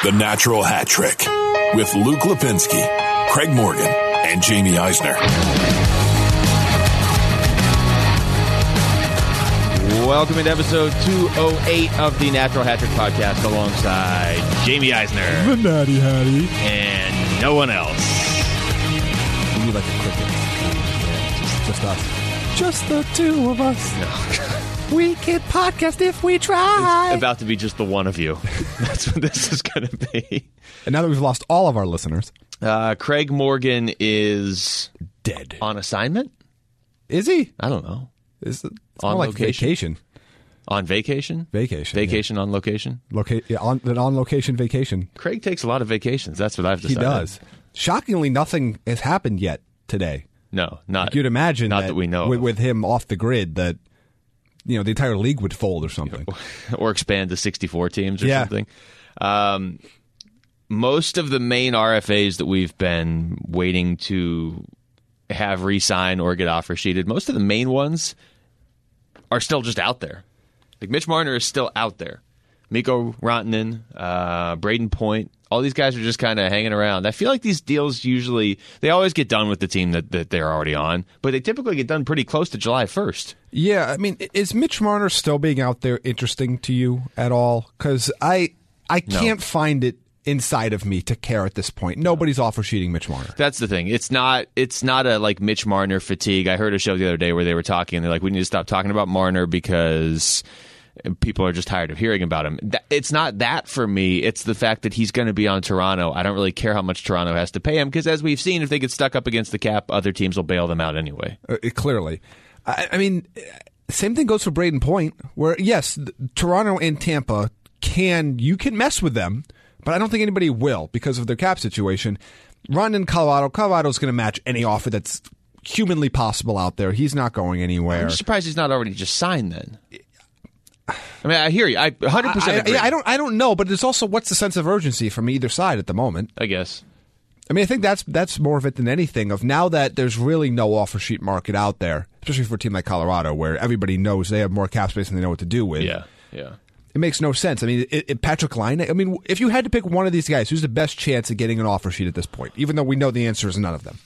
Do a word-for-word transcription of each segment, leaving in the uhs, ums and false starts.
The Natural Hat Trick with Luke Lipinski, Craig Morgan, and Jamie Eisner. Welcome to episode two oh eight of the Natural Hat Trick podcast alongside Jamie Eisner. The Natty Hattie. And no one else. We need like a cricket. Yeah, just, just us. Just the two of us. No. We can podcast if we try. It's about to be just the one of you. That's what this is going to be. And now that we've lost all of our listeners. Uh, Craig Morgan is dead. On assignment? Is he? I don't know. Is it, it's on more like location? vacation. On vacation? Vacation. Vacation yeah. on location? Loca- yeah, on, an on-location vacation. Craig takes a lot of vacations. That's what I've decided. He does. Shockingly, nothing has happened yet today. No, not. Like you'd imagine not that, that we know with, of. with him off the grid that, you know, the entire league would fold or something. Or expand to sixty-four teams or yeah. something. Um, most of the main R F As that we've been waiting to have re-sign or get offer sheeted, most of the main ones are still just out there. Like Mitch Marner is still out there. Mikko Rantanen, uh, Braden Point, all these guys are just kind of hanging around. I feel like these deals usually, they always get done with the team that, that they're already on, but they typically get done pretty close to July first. Yeah, I mean, is Mitch Marner still being out there interesting to you at all? Because I, I can't no. find it inside of me to care at this point. Nobody's offer sheeting Mitch Marner. That's the thing. It's not It's not a like Mitch Marner fatigue. I heard a show the other day where they were talking, and they're like, we need to stop talking about Marner because people are just tired of hearing about him. It's not that for me. It's the fact that he's going to be on Toronto. I don't really care how much Toronto has to pay him because, as we've seen, if they get stuck up against the cap, other teams will bail them out anyway. Uh, clearly. I, I mean, same thing goes for Braden Point, where, yes, Toronto and Tampa can, you can mess with them, but I don't think anybody will because of their cap situation. Run in Colorado. Colorado's going to match any offer that's humanly possible out there. He's not going anywhere. I'm surprised he's not already just signed then. I mean, I hear you. I one hundred percent agree. I, I, I don't. I don't know, but it's also what's the sense of urgency from either side at the moment. I guess. I mean, I think that's that's more of it than anything. Of now that there's really no offer sheet market out there, especially for a team like Colorado, where everybody knows they have more cap space than they know what to do with. Yeah, yeah. It makes no sense. I mean, it, it, Patrick Laine. I mean, if you had to pick one of these guys, who's the best chance of getting an offer sheet at this point? Even though we know the answer is none of them.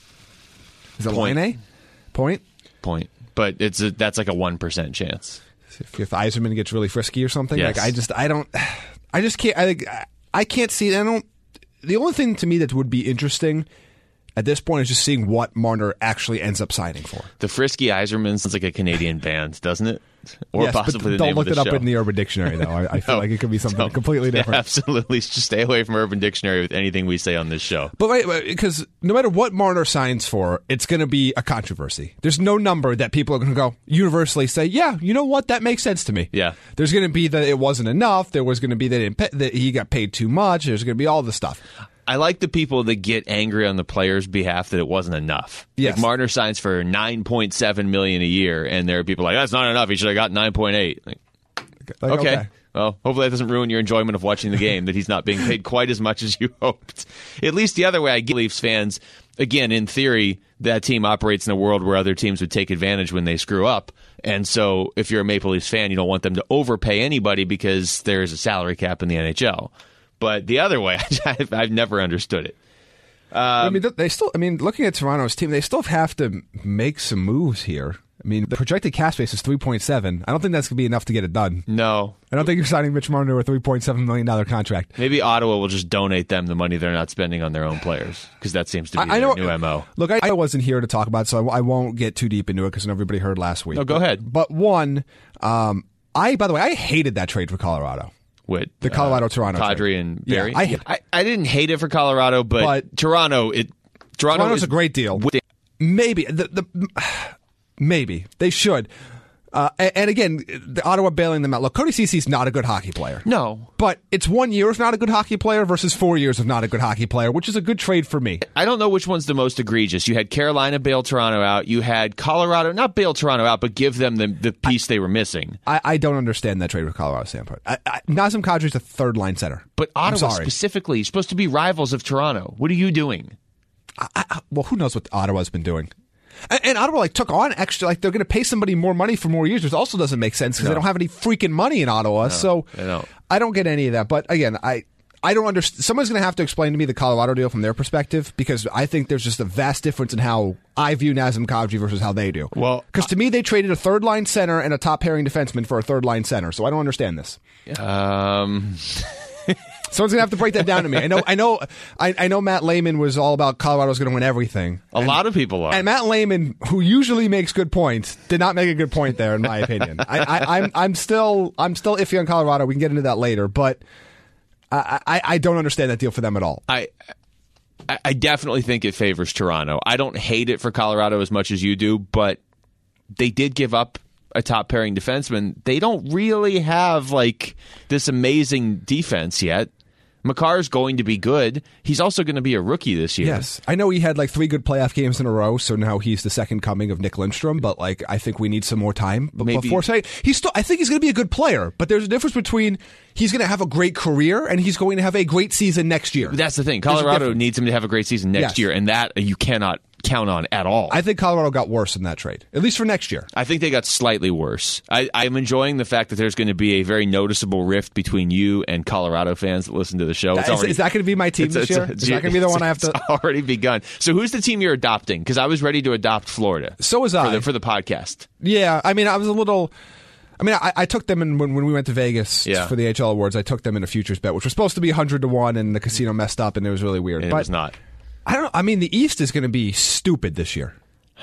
Is it Laine? Point. Point. But it's a, that's like a one percent chance. If, if Yzerman gets really frisky or something, yes. like I just, I don't, I just can't, I, I can't see. I don't. The only thing to me that would be interesting at this point is just seeing what Marner actually ends up signing for. The Frisky Yzerman sounds like a Canadian band, doesn't it? Or yes, possibly the don't name look of the it up show. in the Urban Dictionary, though. I, I feel no, like it could be something completely different. Absolutely, just stay away from Urban Dictionary with anything we say on this show. But right, because no matter what Marner signs for, it's going to be a controversy. There's no number that people are going to go universally say, yeah, you know what, that makes sense to me. Yeah. There's going to be that it wasn't enough. There was going to be that, pay, that he got paid too much. There's going to be all this stuff. I like the people that get angry on the players' behalf that it wasn't enough. Yes. Like Marner signs for nine point seven million dollars a year, and there are people like, that's not enough. He should have got nine point eight. Like, like, okay. okay. Well, hopefully that doesn't ruin your enjoyment of watching the game, that he's not being paid quite as much as you hoped. At least the other way, I get Leafs fans, again, in theory, that team operates in a world where other teams would take advantage when they screw up. And so if you're a Maple Leafs fan, you don't want them to overpay anybody because there's a salary cap in the N H L. But the other way, I've, I've never understood it. Um, I mean, they still. I mean, looking at Toronto's team, they still have to make some moves here. I mean, the projected cap space is three point seven. I don't think that's going to be enough to get it done. No. I don't think you're signing Mitch Marner to a three point seven million dollars contract. Maybe Ottawa will just donate them the money they're not spending on their own players, because that seems to be I, their I know, new M O. Look, I, I wasn't here to talk about it, so I, I won't get too deep into it because everybody heard last week. No, go but, ahead. But one, um, I, by the way, I hated that trade for Colorado. With the Colorado-Toronto uh, Kadri trade. and Barry? Yeah, I, I, I didn't hate it for Colorado, but, but Toronto, it Toronto Toronto's is a great deal. With, maybe. The, the, maybe. They should. Uh, and, and again, the Ottawa bailing them out. Look, Cody Ceci's not a good hockey player. No. But it's one year of not a good hockey player versus four years of not a good hockey player, which is a good trade for me. I don't know which one's the most egregious. You had Carolina bail Toronto out. You had Colorado, not bail Toronto out, but give them the, the piece I, they were missing. I, I don't understand that trade with Colorado standpoint. I, I, Nazem Kadri's a third-line center. But Ottawa specifically, you're supposed to be rivals of Toronto. What are you doing? I, I, well, who knows what Ottawa's been doing? And, and Ottawa like took on extra, like they're going to pay somebody more money for more years, which also doesn't make sense because no. they don't have any freaking money in Ottawa. No, so don't. I don't get any of that. But again, I I don't understand. Someone's going to have to explain to me the Colorado deal from their perspective, because I think there's just a vast difference in how I view Nazem Kadri versus how they do. Well, because to me, they traded a third line center and a top pairing defenseman for a third line center. So I don't understand this. Um. Someone's gonna have to break that down to me. I know, I know, I, I know. Matt Lehman was all about Colorado's going to win everything. A and, lot of people are. And Matt Lehman, who usually makes good points, did not make a good point there, in my opinion. I, I, I'm, I'm still, I'm still iffy on Colorado. We can get into that later, but I, I, I don't understand that deal for them at all. I. I definitely think it favors Toronto. I don't hate it for Colorado as much as you do, but they did give up a top pairing defenseman. They don't really have like this amazing defense yet. Makar's going to be good. He's also going to be a rookie this year. Yes. I know he had like three good playoff games in a row, so now he's the second coming of Nick Lindstrom, but like I think we need some more time b- Maybe. before saying he's still I think he's going to be a good player, but there's a difference between he's going to have a great career and he's going to have a great season next year. That's the thing. There's a Colorado difference. needs him to have a great season next Yes. year, and that you cannot count on at all. I think Colorado got worse in that trade, at least for next year. I think they got slightly worse. I, I'm enjoying the fact that there's going to be a very noticeable rift between you and Colorado fans that listen to the show. It's Is, already, is that going to be my team it's, this it's, year? it's, Is that going to be the one I have it's to? already begun. So who's the team you're adopting? Because I was ready to adopt Florida. So was for I. the, for the podcast. Yeah, I mean, I was a little. I mean, I, I took them in when, when we went to Vegas Yeah. for the H L Awards. I took them in a futures bet, which was supposed to be one hundred to one, and the casino messed up, and it was really weird. It but was not. I don't know. I mean, the East is going to be stupid this year.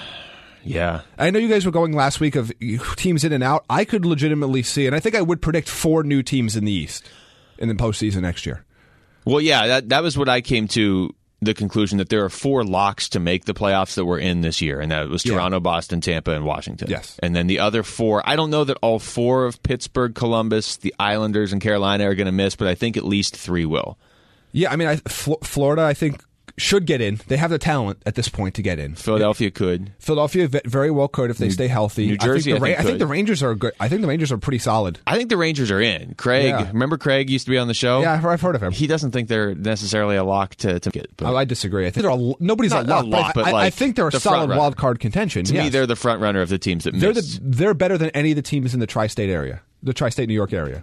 Yeah. I know you guys were going last week of teams in and out. I could legitimately see, and I think I would predict four new teams in the East in the postseason next year. Well, yeah, that that was what I came to the conclusion that there are four locks to make the playoffs that were in this year, and that was Yeah. Toronto, Boston, Tampa, and Washington. Yes. And then the other four, I don't know that all four of Pittsburgh, Columbus, the Islanders, and Carolina are going to miss, but I think at least three will. Yeah, I mean, I, Fl- Florida, I think, should get in. They have the talent at this point to get in. Philadelphia could. Philadelphia ve- very well could if they stay healthy. New Jersey, I I think, the, think Ra- I think could. the Rangers are good. I think the Rangers are pretty solid. I think the Rangers are in. Craig, Yeah. remember Craig used to be on the show? Yeah, I've, I've heard of him. He doesn't think they're necessarily a lock to, to get. But I, I disagree. I think they're a, nobody's Not- a not lock, a lock, but, but I, I like think they're a the solid front runner. wild card contention. to yes. me, they're the front runner of the teams that they're miss. the, they're better than any of the teams in the tri-state area, the tri-state New York area.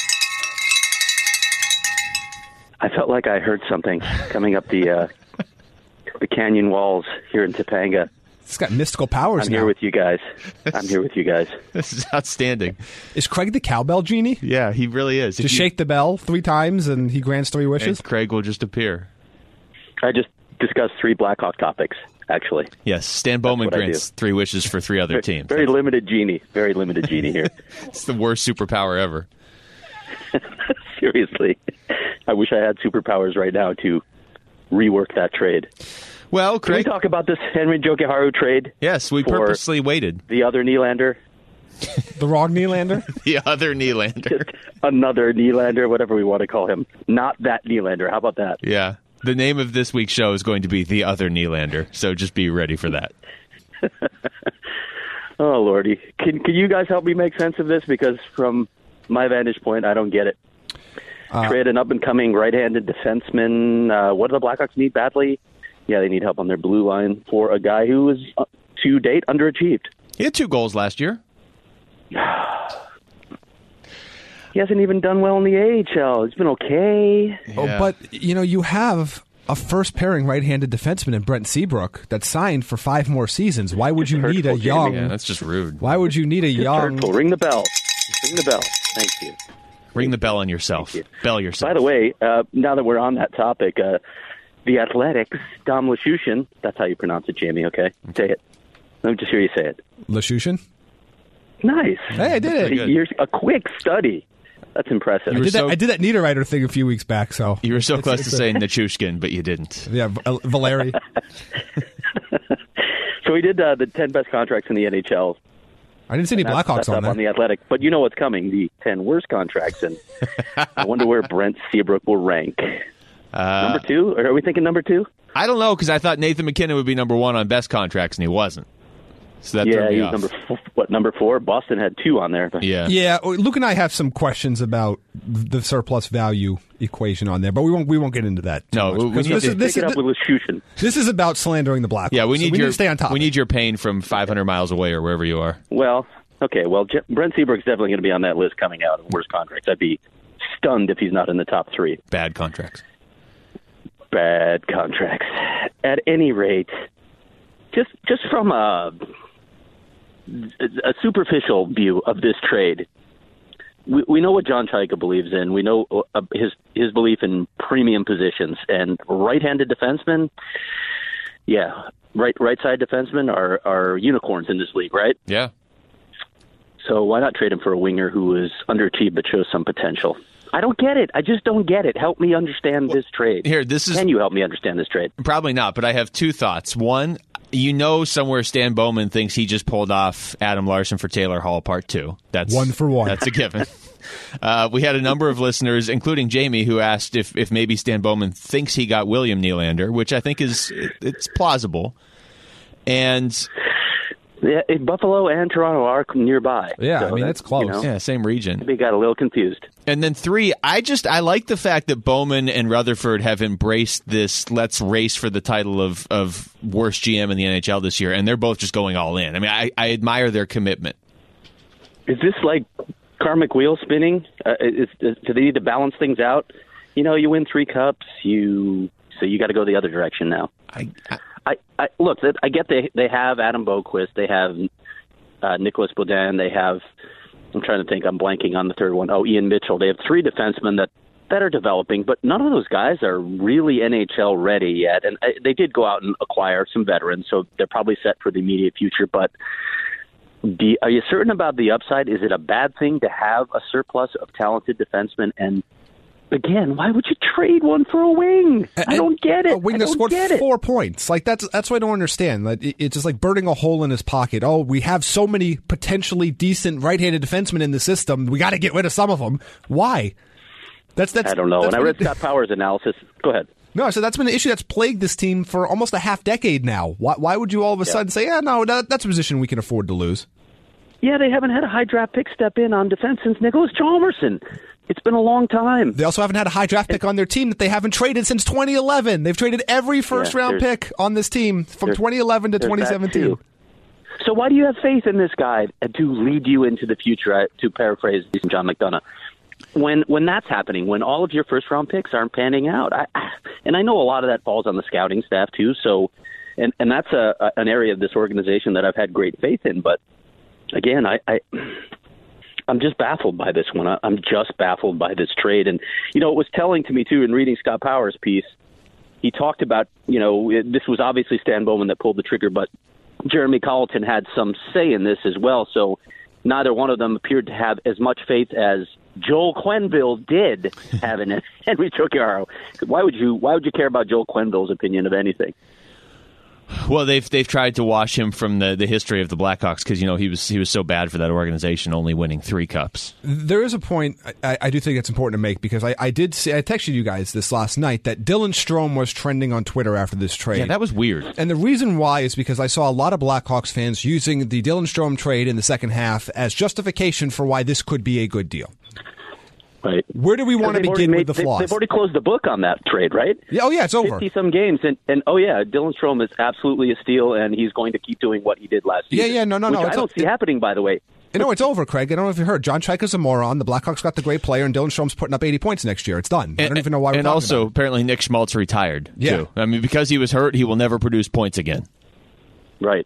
I felt like I heard something coming up the uh, the canyon walls here in Topanga. It's got mystical powers I'm now. here with you guys. I'm here with you guys. This is outstanding. Is Craig the cowbell genie? Yeah, he really is. If Just you- shake the bell three times and he grants three wishes? and Craig will just appear. I just discussed three Blackhawk topics, actually. Yes, Stan Bowman what I grants do. three wishes for three other teams. Very limited genie. Very limited genie here. It's the worst superpower ever. Seriously. I wish I had superpowers right now to rework that trade. Well, Can we Craig. talk about this Henry Jokiharju trade? Yes, we for purposely waited. The other Nylander? The wrong Nylander? The other Nylander. Another Nylander, whatever we want to call him. Not that Nylander. How about that? Yeah. The name of this week's show is going to be The Other Nylander, so just be ready for that. Oh, Lordy. Can, can you guys help me make sense of this? Because from my vantage point, I don't get it. Uh, Trade an up-and-coming right-handed defenseman. Uh, what do the Blackhawks need badly? Yeah, they need help on their blue line for a guy who is, uh, to date, underachieved. He had two goals last year. He hasn't even done well in the A H L. He's been okay. Oh, Yeah. but, you know, you have a first pairing right-handed defenseman in Brent Seabrook that's signed for five more seasons. Why would you It's need a hurtful, young... Jamie. Yeah, that's just rude. Why would you need a It's young... hurtful. Ring the bell. Ring the bell. Thank you. Ring the bell on yourself. Thank you. Bell yourself. By the way, uh, now that we're on that topic, uh, the Athletics, Dom Luszczyszyn, that's how you pronounce it, Jamie, okay? Say it. Let me just hear you say it. Lashushin? Nice. Hey, I did it. good. You're a quick study. That's impressive. I were did, so- that, I did that Niederreiter thing a few weeks back, so... You were so It's- close it's to a- saying Nichushkin, but you didn't. Yeah, Val- Valeri. So we did uh, the ten best contracts in the N H L. I didn't see any That's- Blackhawks that's on up there. on the Athletic. But you know what's coming, the ten worst contracts. And I wonder where Brent Seabrook will rank. Uh, Number two? Or are we thinking number two? I don't know, because I thought Nathan McKinnon would be number one on best contracts, and he wasn't. So that yeah, threw me he's off. number four, what, number four? Boston had two on there. Yeah. Yeah, Luke and I have some questions about the surplus value equation on there, but we won't we won't get into that. too No, much, we- we because need this to is this Pick it is up with Luszczyszyn. this is about slandering the Blackhawks. Yeah, we so need we your need to stay on top. we need your pain from five hundred miles away or wherever you are. Well, okay. Well, J- Brent Seabrook's definitely going to be on that list coming out of worst contracts. I'd be stunned if he's not in the top three. Bad contracts. Bad contracts. At any rate, just just from a, a superficial view of this trade, we, we know what John Chaika believes in. We know uh, his his belief in premium positions and right-handed defensemen. Yeah, right right side defensemen are are unicorns in this league, right? Yeah. So why not trade him for a winger who is underachieved but shows some potential? I don't get it. I just don't get it. Help me understand well, this trade. Here, this is Can you help me understand this trade? Probably not, but I have two thoughts. One, you know somewhere Stan Bowman thinks he just pulled off Adam Larson for Taylor Hall Part Two. That's one for one. That's a given. Uh, we had a number of listeners, including Jamie, who asked if, if maybe Stan Bowman thinks he got William Nylander, which I think is it's plausible. And yeah, Buffalo and Toronto are nearby. Yeah, so I mean, it's close. You know, yeah, same region. We got a little confused. And then three, I just I like the fact that Bowman and Rutherford have embraced this let's race for the title of, of worst G M in the N H L this year, and they're both just going all in. I mean, I, I admire their commitment. Is this like karmic wheel spinning? Uh, is, is, do they need to balance things out? You know, you win three cups, you so you got to go the other direction now. I, I I, I look. I get they they have Adam Boqvist, they have uh, Nicholas Baudin, they have. I'm trying to think. I'm blanking on the third one. Oh, Ian Mitchell. They have three defensemen that, that are developing, but none of those guys are really N H L ready yet. And uh, they did go out and acquire some veterans, so they're probably set for the immediate future. But do, are you certain about the upside? Is it a bad thing to have a surplus of talented defensemen? And again, why would you trade one for a wing? I don't get it. A wing I that don't scored get four it. points. Like that's that's what I don't understand. Like, it, it's just like burning a hole in his pocket. Oh, we have so many potentially decent right-handed defensemen in the system. We got to get rid of some of them. Why? That's that's. I don't know. When And I read Scott Powers' analysis. Go ahead. No, so that's been an issue that's plagued this team for almost a half decade now. Why, why would you all of a Yeah. sudden say, yeah, no, that, that's a position we can afford to lose? Yeah, they haven't had a high draft pick step in on defense since Nicholas Chalmerson. It's been a long time. They also haven't had a high draft pick on their team that they haven't traded since twenty eleven. They've traded every first Yeah, round there's- pick on this team from there's- twenty eleven to there's twenty that seventeen. too. So why do you have faith in this guy to lead you into the future, uh, to paraphrase John McDonough? When when that's happening, when all of your first round picks aren't panning out, I, I, and I know a lot of that falls on the scouting staff too. So, and and that's a, a an area of this organization that I've had great faith in. But again, I, I I'm just baffled by this one. I, I'm just baffled by this trade. And you know, it was telling to me too in reading Scott Powers' piece. He talked about, you know, it, this was obviously Stan Bowman that pulled the trigger, but Jeremy Colleton had some say in this as well. So neither one of them appeared to have as much faith as Joel Quenneville did have in it. Henry Chokiaro. Why would you? Why would you care about Joel Quenneville's opinion of anything? Well, they've they've tried to wash him from the, the history of the Blackhawks because you know he was he was so bad for that organization, only winning three cups. There is a point I, I do think it's important to make because I, I did see I texted you guys this last night that Dylan Strome was trending on Twitter after this trade. Yeah, that was weird. And the reason why is because I saw a lot of Blackhawks fans using the Dylan Strome trade in the second half as justification for why this could be a good deal. Right. Where do we want to They've begin already with the made- flaws? They've already closed the book on that trade, right? Yeah, oh, yeah, it's over. fifty-some games, and, and oh, yeah, Dylan Strome is absolutely a steal, and he's going to keep doing what he did last Yeah, season. yeah, no, no, which no, I it's don't a- see it- happening, by the way. You know, it's over, Craig. I don't know if you heard. John Chaika's a moron. The Blackhawks got the great player, and Dylan Strome's putting up eighty points next year. It's done. I don't even know why we're And talking also, about it. apparently, Nick Schmaltz retired, Yeah. too. I mean, because he was hurt, he will never produce points again. Right.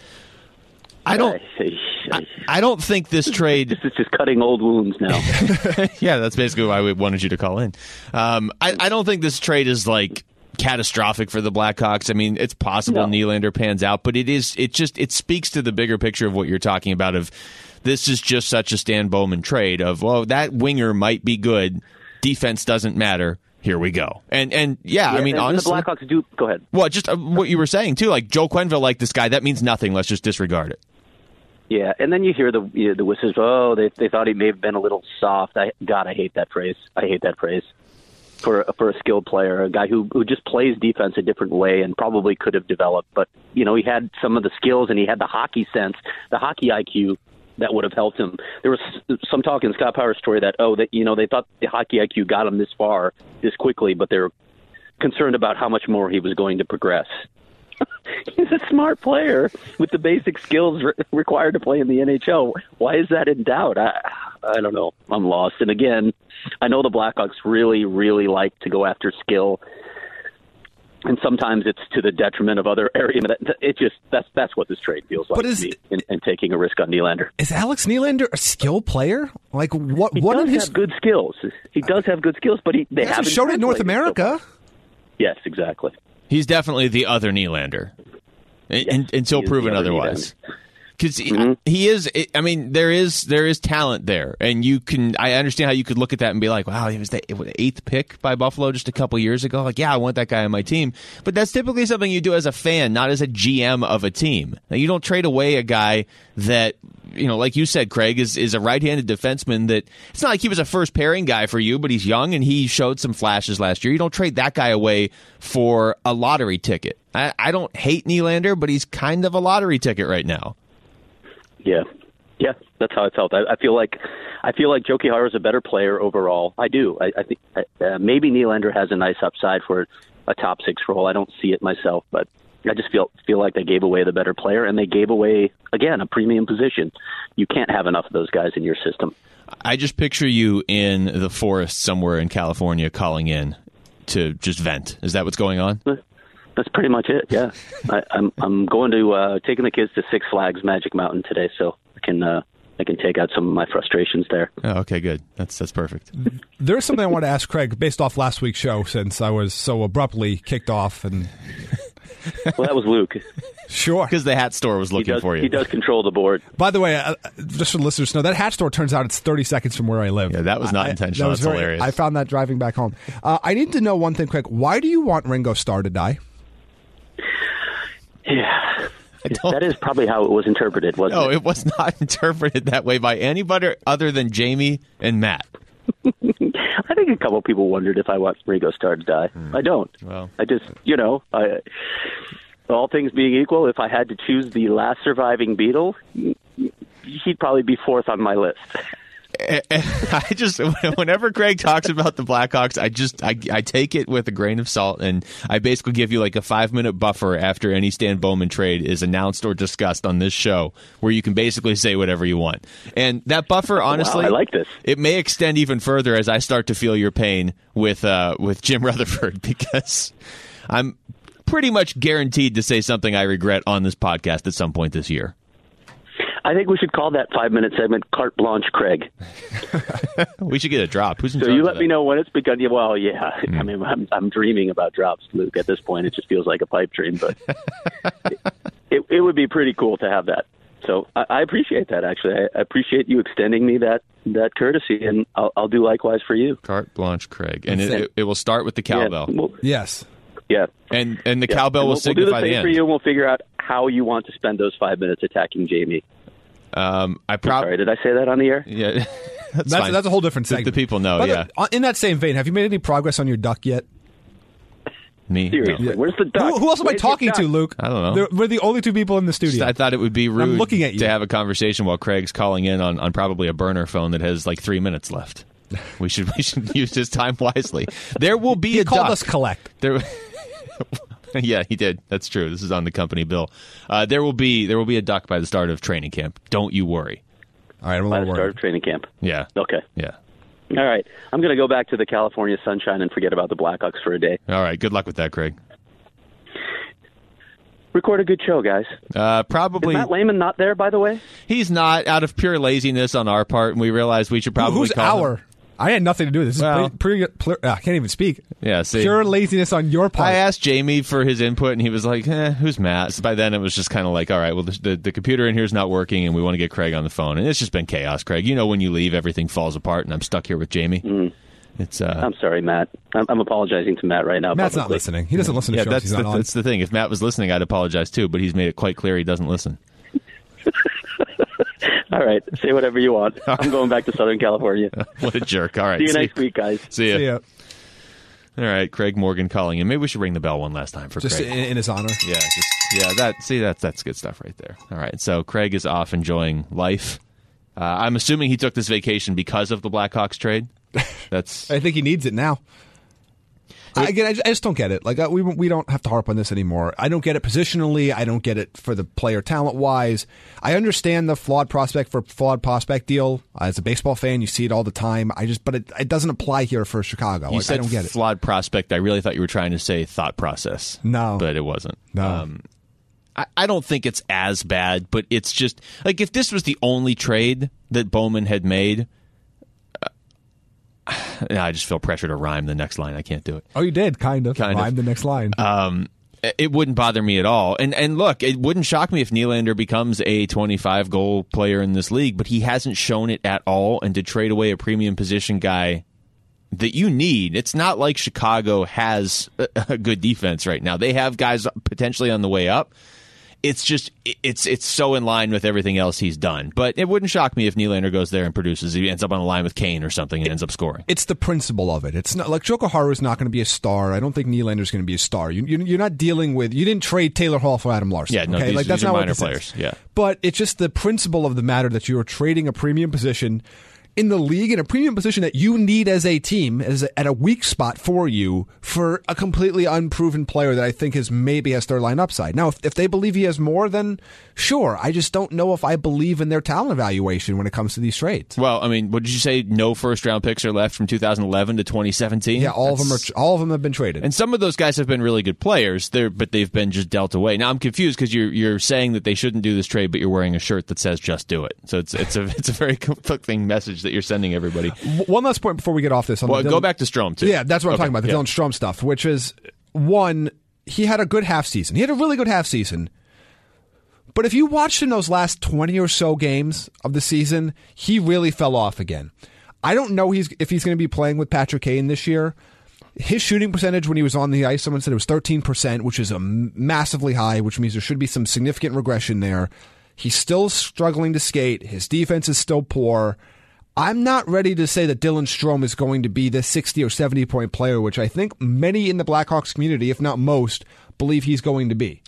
I don't I, I don't think this trade... This is just cutting old wounds now. Yeah, that's basically why we wanted you to call in. Um, I, I don't think this trade is, like, catastrophic for the Blackhawks. I mean, it's possible No. Nylander pans out, but it is it just it speaks to the bigger picture of what you're talking about of this is just such a Stan Bowman trade of, well, that winger might be good. Defense doesn't matter. Here we go. And, and yeah, Yeah, I mean, and honestly... the Blackhawks do... Go ahead. Well, just uh, what you were saying, too. Like, Joe Quenneville liked this guy. That means nothing. Let's just disregard it. Yeah, and then you hear the you know, the whistles. Oh, they they thought he may have been a little soft. I God, I hate that phrase. I hate that phrase for for a skilled player, a guy who who just plays defense a different way and probably could have developed. But you know, he had some of the skills and he had the hockey sense, the hockey I Q that would have helped him. There was some talk in Scott Powers' story that oh, that you know they thought the hockey I Q got him this far this quickly, but they're concerned about how much more he was going to progress. He's a smart player with the basic skills re- required to play in the N H L. Why is that in doubt? I, I don't know. I'm lost. And again, I know the Blackhawks really, really like to go after skill. And sometimes it's to the detriment of other areas. It just that's that's what this trade feels like But is, to me, and, and taking a risk on Nylander. Is Alex Nylander a skill player? Like what? He what does in his have good skills. He does have good skills, but he they he hasn't haven't shown it in North translated so America. far. Yes, exactly. He's definitely the other Nylander, Yes, in, until he is proven the other otherwise. Nylander. Because he, Mhm. he is, I mean, there is there is talent there, and you can. I understand how you could look at that and be like, "Wow, he was the eighth pick by Buffalo just a couple years ago." Like, yeah, I want that guy on my team, but that's typically something you do as a fan, not as a G M of a team. Now, you don't trade away a guy that, you know, like you said, Craig is is a right-handed defenseman. That it's not like he was a first pairing guy for you, but he's young and he showed some flashes last year. You don't trade that guy away for a lottery ticket. I, I don't hate Nylander, but he's kind of a lottery ticket right now. Yeah, yeah, that's how I felt. I, I feel like I feel like Joe Quijano is a better player overall. I do. I, I think uh, maybe Nylander has a nice upside for a top six role. I don't see it myself, but I just feel feel like they gave away the better player, and they gave away again a premium position. You can't have enough of those guys in your system. I just picture you in the forest somewhere in California calling in to just vent. Is that what's going on? That's pretty much it. Yeah, I, I'm I'm going to uh, taking the kids to Six Flags Magic Mountain today, so I can uh, I can take out some of my frustrations there. Oh, okay, good. That's that's perfect. There's something I want to ask Craig based off last week's show, since I was so abruptly kicked off. And Well, that was Luke. sure, Because the hat store was He looking does for you. he does control the board. by the way, uh, just for the listeners to know, that hat store turns out it's thirty seconds from where I live. Yeah, that was not I- I- intentional. that was That's very- hilarious. I found that driving back home. Uh, I need to know one thing, Craig. Why do you want Ringo Starr to die? Yeah, don't- that is probably how it was interpreted, wasn't No, it? it was not interpreted that way by anybody other than Jamie and Matt. I think a couple people wondered if I want Ringo Starr to die. I don't. Well. I just, you know, I, all things being equal, if I had to choose the last surviving Beatle, he'd probably be fourth on my list. I just, whenever Craig talks about the Blackhawks, I just, I, I take it with a grain of salt, and I basically give you like a five minute buffer after any Stan Bowman trade is announced or discussed on this show, where you can basically say whatever you want. And that buffer, honestly, Wow, I like this. It may extend even further as I start to feel your pain with, uh, with Jim Rutherford, because I'm pretty much guaranteed to say something I regret on this podcast at some point this year. I think we should call that five-minute segment Carte Blanche Craig. We should get a drop. Who's in So charge you of let that? me know when it's begun. Yeah, well, yeah. I mean, I'm, I'm dreaming about drops, Luke. At this point, it just feels like a pipe dream, but it, it would be pretty cool to have that. So I, I appreciate that, actually. I, I appreciate you extending me that, that courtesy, and I'll, I'll do likewise for you. Carte Blanche Craig. And it, That's it, it will start with the cowbell. Yeah, well, Yes. yeah. And and the Yeah. cowbell And will we'll, signify we'll do the the same end. for you, and we'll figure out how you want to spend those five minutes attacking Jamie. Um, I Sorry, probably did I say that on the air? yeah. that's That's fine. that's a whole different The- segment. The people know. By the Yeah, way, on- in that same vein, have you made any progress on your duck yet? me. Seriously, No. where's the duck? Who, who else am I Where's your talking to, duck? Luke? I don't know. They're- we're the only two people in the studio. I thought it would be rude looking at you. to have a conversation while Craig's calling in on, on probably a burner phone that has like three minutes left. We should we should use his time wisely. There will be he a called duck. us collect. There, yeah, he did. That's true. This is on the company bill. Uh, there will be there will be a duck by the start of training camp. Don't you worry. All right, I'm a By little the start worried. of training camp. Yeah. Okay. Yeah. All right. I'm going to go back to the California sunshine and forget about the Blackhawks for a day. All right. Good luck with that, Craig. Record a good show, guys. Uh, Is probably Matt Lehman not there, by the way? he's not, out of pure laziness on our part, and we realized we should probably Who's call him. our? I had nothing to do with this. This Well- is pretty, pretty, uh, I can't even speak. Yeah, see. Pure laziness on your part. I asked Jamie for his input, and he was like, eh, who's Matt? So by then, it was just kind of like, all right, well, the, the, the computer in here is not working, and we want to get Craig on the phone. And it's just been chaos, Craig. You know, when you leave, everything falls apart, and I'm stuck here with Jamie. Mm. It's uh, I'm sorry, Matt. I'm, I'm apologizing to Matt right now. Matt's not publicly. listening. He doesn't listen to yeah, shows that's he's the, not on. that's the thing. If Matt was listening, I'd apologize too, but he's made it quite clear he doesn't listen. All right. Say whatever you want. I'm going back to Southern California. What a jerk. All right. See you see next week, guys. See ya. See ya. All right, Craig Morgan calling in. Maybe we should ring the bell one last time for Just Craig. in, in his honor. Yeah, just yeah. That see, that's that's good stuff right there. All right, so Craig is off enjoying life. Uh, I'm assuming he took this vacation because of the Blackhawks trade. That's I think he needs it now. again, I just, I just don't get it. Like uh, we we don't have to harp on this anymore. I don't get it positionally. I don't get it for the player talent wise. I understand the flawed prospect for flawed prospect deal. Uh, as a baseball fan, you see it all the time. I just, but it, it doesn't apply here for Chicago. You like, said I don't get it. Flawed prospect. I really thought you were trying to say thought process. No, but it wasn't. No. Um, I, I don't think it's as bad, but it's just like if this was the only trade that Bowman had made. I just feel pressure to rhyme the next line. I can't do it. Oh, you did, kind of. Kind rhyme of. the next line. Um, it wouldn't bother me at all. And and look, it wouldn't shock me if Nylander becomes a twenty-five goal player in this league, but he hasn't shown it at all. And to trade away a premium position guy that you need, it's not like Chicago has a, a good defense right now. They have guys potentially on the way up. It's just it's it's so in line with everything else he's done. But it wouldn't shock me if Nylander goes there and produces. He ends up on a line with Kane or something and it, ends up scoring. It's the principle of it. It's not like Jokiharju is not going to be a star. I don't think Nylander's going to be a star. You, you, you're not dealing with. You didn't trade Taylor Hall for Adam Larson. Yeah, no, okay? these, like, that's these not are what minor this players. is. Yeah, but it's just the principle of the matter that you are trading a premium position in the league, in a premium position that you need as a team, as a, at a weak spot for you, for a completely unproven player that I think is maybe has third line upside. Now, if, if they believe he has more, then sure. I just don't know if I believe in their talent evaluation when it comes to these trades. Well, I mean, what did you say? No first round picks are left from two thousand eleven to twenty seventeen. Yeah, all That's, of them are. All of them have been traded, and some of those guys have been really good players. They're, but they've been just dealt away. Now I'm confused because you're you're saying that they shouldn't do this trade, but you're wearing a shirt that says "Just do it." So it's it's a it's a very conflicting message that you're sending everybody. One last point before we get off this. On well, the go Dylan, back to Strome, too. Yeah, that's what I'm okay, talking about, the yeah. Dylan Strome stuff, which is, one, he had a good half season. He had a really good half season. But if you watched in those last twenty or so games of the season, he really fell off again. I don't know he's, if he's going to be playing with Patrick Kane this year. His shooting percentage when he was on the ice, someone said it was thirteen percent, which is a massively high, which means there should be some significant regression there. He's still struggling to skate. His defense is still poor. I'm not ready to say that Dylan Strome is going to be this sixty or seventy point player, which I think many in the Blackhawks community, if not most, believe he's going to be.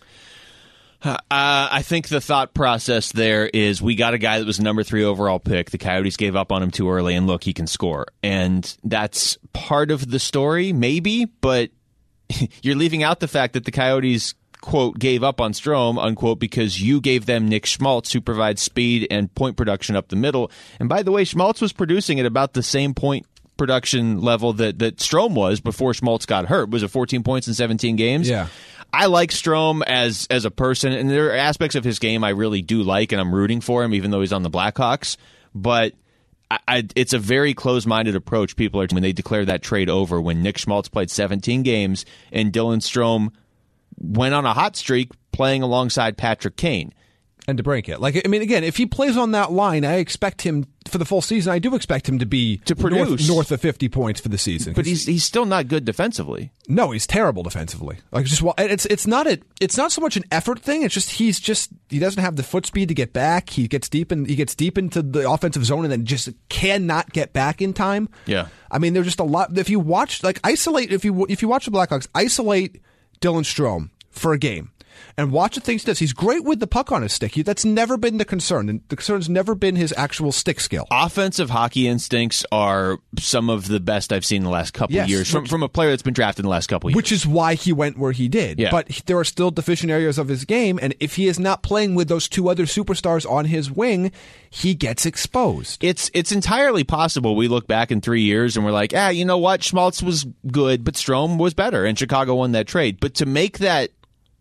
Uh, I think the thought process there is we got a guy that was a number three overall pick. The Coyotes gave up on him too early, and look, he can score. And that's part of the story, maybe, but you're leaving out the fact that the Coyotes, quote, gave up on Strome, unquote, because you gave them Nick Schmaltz, who provides speed and point production up the middle. And by the way, Schmaltz was producing at about the same point production level that, that Strome was before Schmaltz got hurt. Was it fourteen points in seventeen games? Yeah. I like Strome as as a person, and there are aspects of his game I really do like, and I'm rooting for him, even though he's on the Blackhawks. But I, I, it's a very close-minded approach. People are when they declare that trade over when Nick Schmaltz played seventeen games and Dylan Strome went on a hot streak playing alongside Patrick Kane. And to break it. Like, I mean, again, if he plays on that line, I expect him, for the full season, I do expect him to be to produce north, north of fifty points for the season. But he's he's still not good defensively. No, he's terrible defensively. Like, just it's it's not a it's not so much an effort thing. It's just he's just he doesn't have the foot speed to get back. He gets deep in he gets deep into the offensive zone and then just cannot get back in time. Yeah, I mean, there's just a lot. If you watch, like, isolate if you if you watch the Blackhawks, isolate Dylan Strome for a game. And watch the things he does. He's great with the puck on his stick. He, that's never been the concern. And the concern's never been his actual stick skill. Offensive hockey instincts are some of the best I've seen in the last couple yes, of years from, which, from a player that's been drafted in the last couple of years. Which is why he went where he did. Yeah. But there are still deficient areas of his game. And if he is not playing with those two other superstars on his wing, he gets exposed. It's it's entirely possible we look back in three years and we're like, ah, you know what? Schmaltz was good, but Strome was better. And Chicago won that trade. But to make that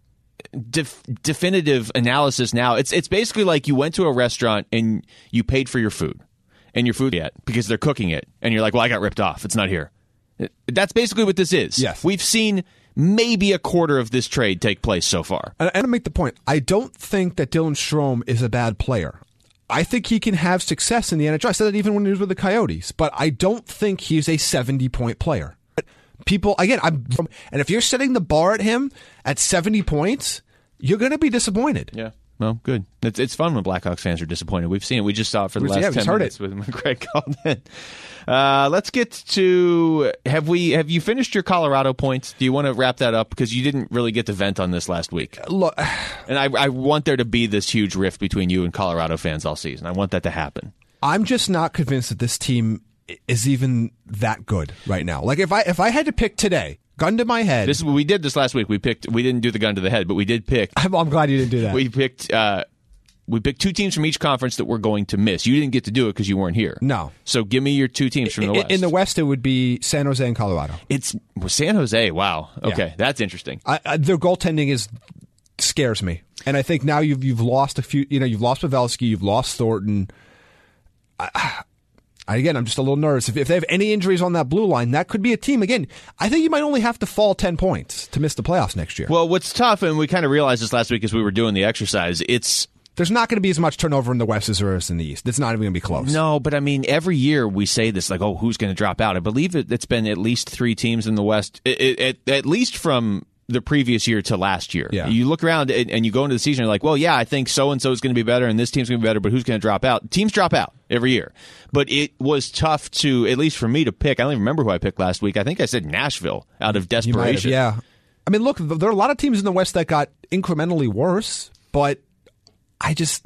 Def- definitive analysis now, it's it's basically like you went to a restaurant and you paid for your food and your food yet because they're cooking it and you're like, well, I got ripped off, it's not here. That's basically what this is. Yes. We've seen maybe a quarter of this trade take place so far. And, and to make the point, I don't think that Dylan Strome is a bad player. I think he can have success in the N H L. I said that even when he was with the Coyotes, but I don't think he's a seventy point player. People, again, I'm from, and if you're setting the bar at him at seventy points, you're going to be disappointed. Yeah. Well, good. It's it's fun when Blackhawks fans are disappointed. We've seen it. We just saw it for the We've, last yeah, ten heard minutes it. with Craig called in. Uh, let's get to have we have you finished your Colorado points? Do you want to wrap that up because you didn't really get to vent on this last week? Look, and I, I want there to be this huge rift between you and Colorado fans all season. I want that to happen. I'm just not convinced that this team is even that good right now. Like if I if I had to pick today, gun to my head. This we did this last week. We picked. We didn't do the gun to the head, but we did pick. I'm, I'm glad you didn't do that. We picked. Uh, we picked two teams from each conference that we're going to miss. You didn't get to do it because you weren't here. No. So give me your two teams from the in, West. In the West, it would be San Jose and Colorado. It's San Jose. Wow. Okay, Yeah. that's interesting. I, I, their goaltending is scares me, and I think now you've you've lost a few. You know, you've lost Pavelski, you've lost Thornton. I, I, again, I'm just a little nervous. If, if they have any injuries on that blue line, that could be a team. Again, I think you might only have to fall ten points to miss the playoffs next year. Well, what's tough, and we kind of realized this last week as we were doing the exercise. It's There's not going to be as much turnover in the West as there is in the East. It's not even going to be close. No, but I mean, every year we say this, like, oh, who's going to drop out? I believe it, it's been at least three teams in the West, it, it, at, at least from the previous year to last year. Yeah. You look around and, and you go into the season, you're like, well, yeah, I think so-and-so is going to be better and this team's going to be better, but who's going to drop out? Teams drop out every year. But it was tough to, at least for me, to pick. I don't even remember who I picked last week. I think I said Nashville out of You might have, desperation. yeah. I mean, look, there are a lot of teams in the West that got incrementally worse, but I just...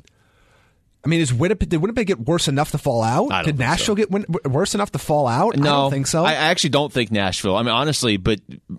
I mean, is Winnipeg, did Winnipeg get worse enough to fall out? I don't Did think Nashville so. get win, worse enough to fall out? No, I don't think so. I actually don't think Nashville. I mean, honestly, but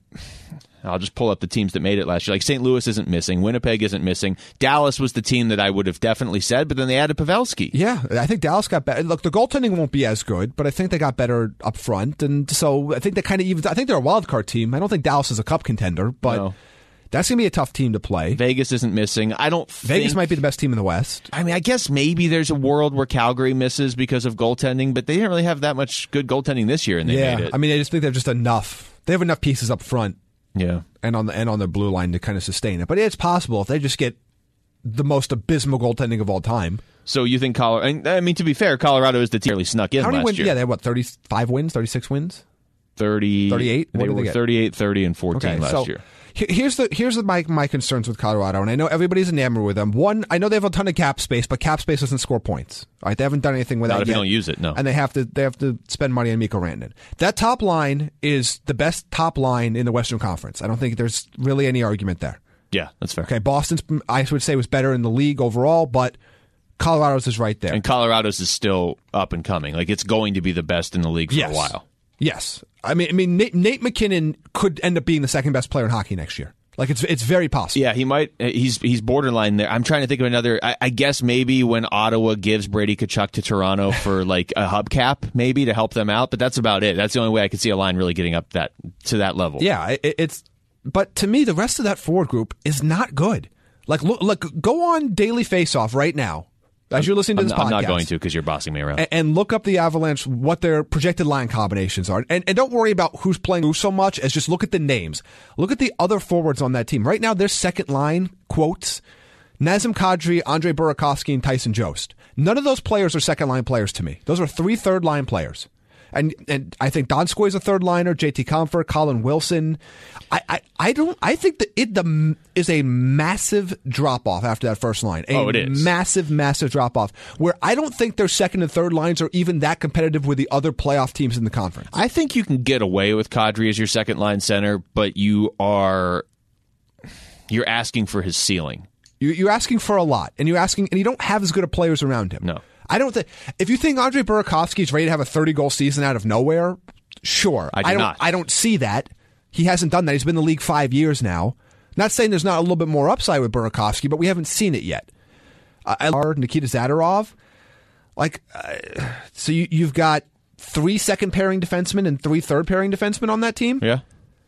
I'll just pull up the teams that made it last year. Like Saint Louis isn't missing. Winnipeg isn't missing. Dallas was the team that I would have definitely said, but then they added Pavelski. Yeah, I think Dallas got better. Look, the goaltending won't be as good, but I think they got better up front. And so I think they kind of even, I think they're a wild card team. I don't think Dallas is a cup contender, but No. that's going to be a tough team to play. Vegas isn't missing. I don't Vegas think, might be the best team in the West. I mean, I guess maybe there's a world where Calgary misses because of goaltending, but they didn't really have that much good goaltending this year, and they yeah, made it. I mean, I just think they're just enough. They have enough pieces up front yeah. and on the and on their blue line to kind of sustain it. But it's possible if they just get the most abysmal goaltending of all time. So you think Colorado? I mean, to be fair, Colorado is the team that really snuck in How many last wins? year. Yeah, they had what, thirty-five wins, thirty-six wins? thirty, thirty-eight? What They did they were get? thirty-eight, thirty, and fourteen Okay, last so year. he- here's the here's the, my my concerns with Colorado, and I know everybody's enamored with them. One, I know they have a ton of cap space, but cap space doesn't score points. All right, they haven't done anything with Not that if yet. you don't use it, no. And they have to they have to spend money on Mikko Rantanen. That top line is the best top line in the Western Conference. I don't think there's really any argument there. Yeah, that's fair. Okay, Boston's I would say was better in the league overall, but Colorado's is right there. And Colorado's is still up and coming. Like, it's going to be the best in the league for yes. a while. Yes, I mean, I mean, Nate, Nate McKinnon could end up being the second best player in hockey next year. Like, it's it's very possible. Yeah, he might. He's he's borderline there. I'm trying to think of another. I, I guess maybe when Ottawa gives Brady Tkachuk to Toronto for like a hubcap, maybe to help them out. But that's about it. That's the only way I could see a line really getting up that to that level. Yeah, it, it's. But to me, the rest of that forward group is not good. Like, look, look go on Daily Faceoff right now as you're listening to I'm, this I'm podcast. not going to because you're bossing me around. and, and look up the Avalanche, what their projected line combinations are. And, and don't worry about who's playing who so much as just look at the names. Look at the other forwards on that team. Right now, their second line, quotes, Nazem Kadri, Andre Burakovsky, and Tyson Jost. None of those players are second line players to me. Those are three third line players. And and I think Donskoy is a third liner, J T Comfort, Colin Wilson. I, I, I don't I think that it the is a massive drop off after that first line. A Oh, it is. massive, massive drop off where I don't think their second and third lines are even that competitive with the other playoff teams in the conference. I think you can get away with Kadri as your second line center, but you are you're asking for his ceiling. You, you're asking for a lot, and you're asking, and you don't have as good of players around him. No. I don't think. If you think Andre Burakovsky is ready to have a thirty goal season out of nowhere, sure. I do don't. not. I don't see that. He hasn't done that. He's been in the league five years now. Not saying there's not a little bit more upside with Burakovsky, but we haven't seen it yet. Uh, I love Nikita Zadorov. Like, uh, so you, you've got three second pairing defensemen and three third pairing defensemen on that team. Yeah.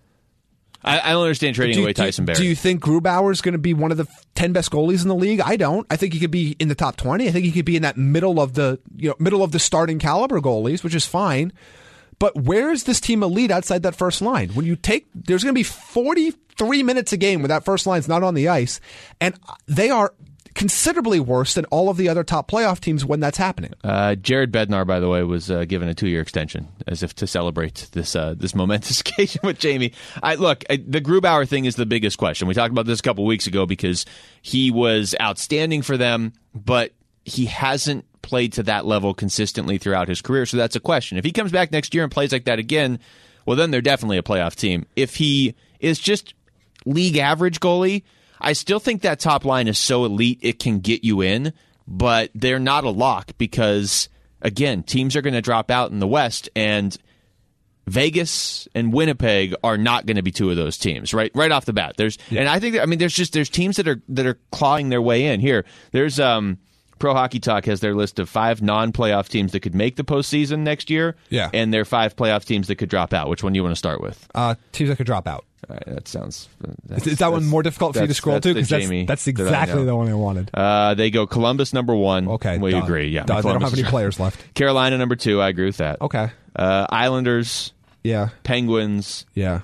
I, I don't understand trading Do you- away Tyson do, Barrie. Do you think Grubauer is going to be one of the ten best goalies in the league? I don't. I think he could be in the top twenty. I think he could be in that middle of the you know middle of the starting caliber goalies, which is fine. But where is this team elite outside that first line? When you take, there's going to be forty-three minutes a game when that first line's not on the ice, and they are considerably worse than all of the other top playoff teams when that's happening. Uh, Jared Bednar, by the way, was uh, given a two-year extension as if to celebrate this uh, this momentous occasion with Jamie. I look, I, the Grubauer thing is the biggest question. We talked about this a couple weeks ago because he was outstanding for them, but he hasn't played to that level consistently throughout his career, so that's a question. If he comes back next year and plays like that again, well, then they're definitely a playoff team. If he is just league average goalie, I still think that top line is so elite it can get you in, but they're not a lock because, again, teams are going to drop out in the West, and Vegas and Winnipeg are not going to be two of those teams, right? Right off the bat. There's, yeah. and I think, that, I mean, there's just there's teams that are that are clawing their way in here. There's um, Pro Hockey Talk has their list of five non-playoff teams that could make the postseason next year, yeah, and their five playoff teams that could drop out. Which one do you want to start with? Uh, teams that could drop out. All right, that sounds. Is that one more difficult for you to scroll to? Because that's, that's exactly the one I wanted. Uh, they go Columbus number one. Okay, we done. agree. Yeah, done. They don't have any players left. Carolina number two. I agree with that. Okay. Uh, Islanders. Yeah. Penguins. Yeah.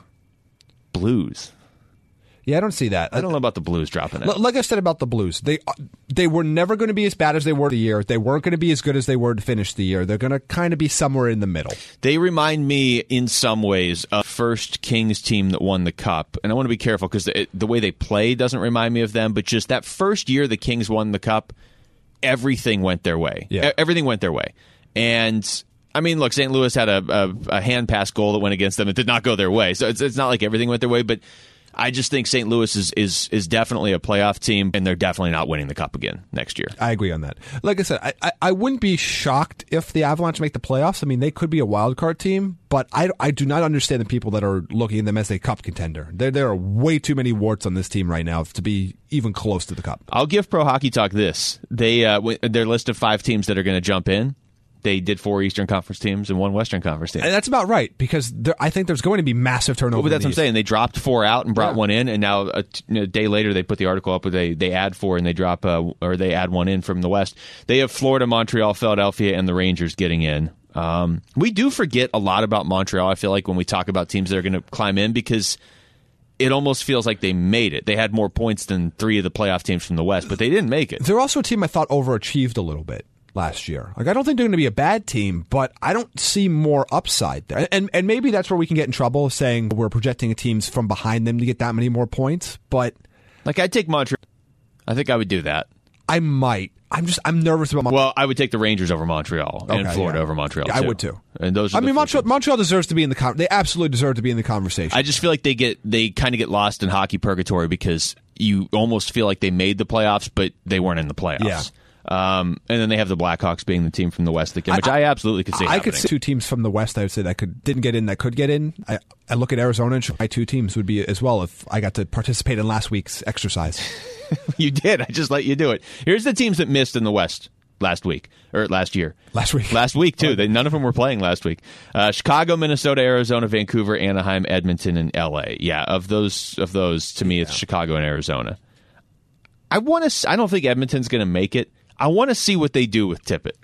Blues. Yeah, I don't see that. I don't know about the Blues dropping out. Like I said about the Blues, they they were never going to be as bad as they were the year. They weren't going to be as good as they were to finish the year. They're going to kind of be somewhere in the middle. They remind me in some ways of first Kings team that won the Cup. And I want to be careful because the, the way they play doesn't remind me of them. But just that first year the Kings won the Cup, everything went their way. Yeah. E- everything went their way. And I mean, look, Saint Louis had a, a, a hand pass goal that went against them. It did not go their way. So it's, it's not like everything went their way. But I just think Saint Louis is, is is definitely a playoff team, and they're definitely not winning the Cup again next year. I agree on that. Like I said, I, I, I wouldn't be shocked if the Avalanche make the playoffs. I mean, they could be a wild card team, but I, I do not understand the people that are looking at them as a Cup contender. There there are way too many warts on this team right now to be even close to the Cup. I'll give Pro Hockey Talk this. They uh, their list of five teams that are going to jump in. They did four Eastern Conference teams and one Western Conference team. And that's about right, because there, I think there's going to be massive turnover. Well, but that's what I'm saying. They dropped four out and brought yeah. one in, and now a, a day later they put the article up where they, they add four and they drop uh, or they add one in from the West. They have Florida, Montreal, Philadelphia, and the Rangers getting in. Um, we do forget a lot about Montreal, I feel like, when we talk about teams that are going to climb in, because it almost feels like they made it. They had more points than three of the playoff teams from the West, but they didn't make it. They're also a team I thought overachieved a little bit last year. Like, I don't think they're going to be a bad team, but I don't see more upside there. And and maybe that's where we can get in trouble, saying we're projecting teams from behind them to get that many more points. But like, I'd take Montreal. I think I would do that. I might. I'm just I'm nervous about Montreal. Well, I would take the Rangers over Montreal and okay, Florida yeah. over Montreal. Yeah, too. I would too. And those. Are I the mean, Montreal, teams. Montreal deserves to be in the con- they absolutely deserve to be in the conversation. I just feel like they get they kind of get lost in hockey purgatory because you almost feel like they made the playoffs, but they weren't in the playoffs. Yeah. Um, and then they have the Blackhawks being the team from the West that can, which I, I absolutely could see. I happening. could see two teams from the West. I would say that could didn't get in that could get in. I, I look at Arizona and my two teams would be as well if I got to participate in last week's exercise. You did. I just let you do it. Here's the teams that missed in the West last week or last year. Last week. Last week too. They, none of them were playing last week. Uh, Chicago, Minnesota, Arizona, Vancouver, Anaheim, Edmonton, and L A. Yeah, of those of those to me, yeah. It's Chicago and Arizona. I want to. I don't think Edmonton's going to make it. I want to see what they do with Tippett.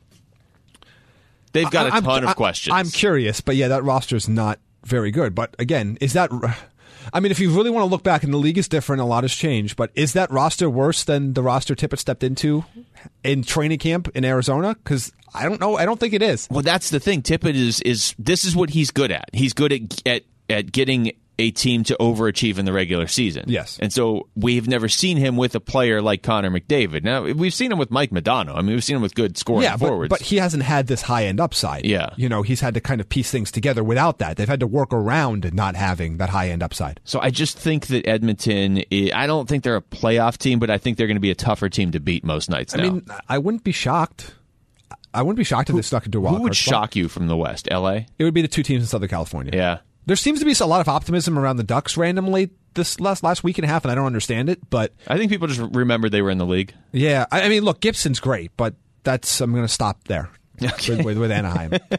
They've got a I'm, ton I'm, of questions. I'm curious, but yeah, that roster's not very good. But again, is that? I mean, if you really want to look back, and the league is different, a lot has changed. But is that roster worse than the roster Tippett stepped into in training camp in Arizona? Because I don't know. I don't think it is. Well, that's the thing. Tippett is is this is what he's good at. He's good at at at getting a team to overachieve in the regular season. Yes. And so we've never seen him with a player like Connor McDavid. Now, we've seen him with Mike Modano. I mean, we've seen him with good scoring yeah, but, forwards. but he hasn't had this high-end upside. Yeah. You know, he's had to kind of piece things together without that. They've had to work around not having that high-end upside. So I just think that Edmonton, I don't think they're a playoff team, but I think they're going to be a tougher team to beat most nights now. I mean, I wouldn't be shocked. I wouldn't be shocked if they stuck into a wild Who would card shock you from the West? L A? It would be the two teams in Southern California. Yeah. There seems to be a lot of optimism around the Ducks randomly this last last week and a half, and I don't understand it. But I think people just remember they were in the league. Yeah, I, I mean, look, Gibson's great, but that's I'm going to stop there okay. with, with, with Anaheim. uh,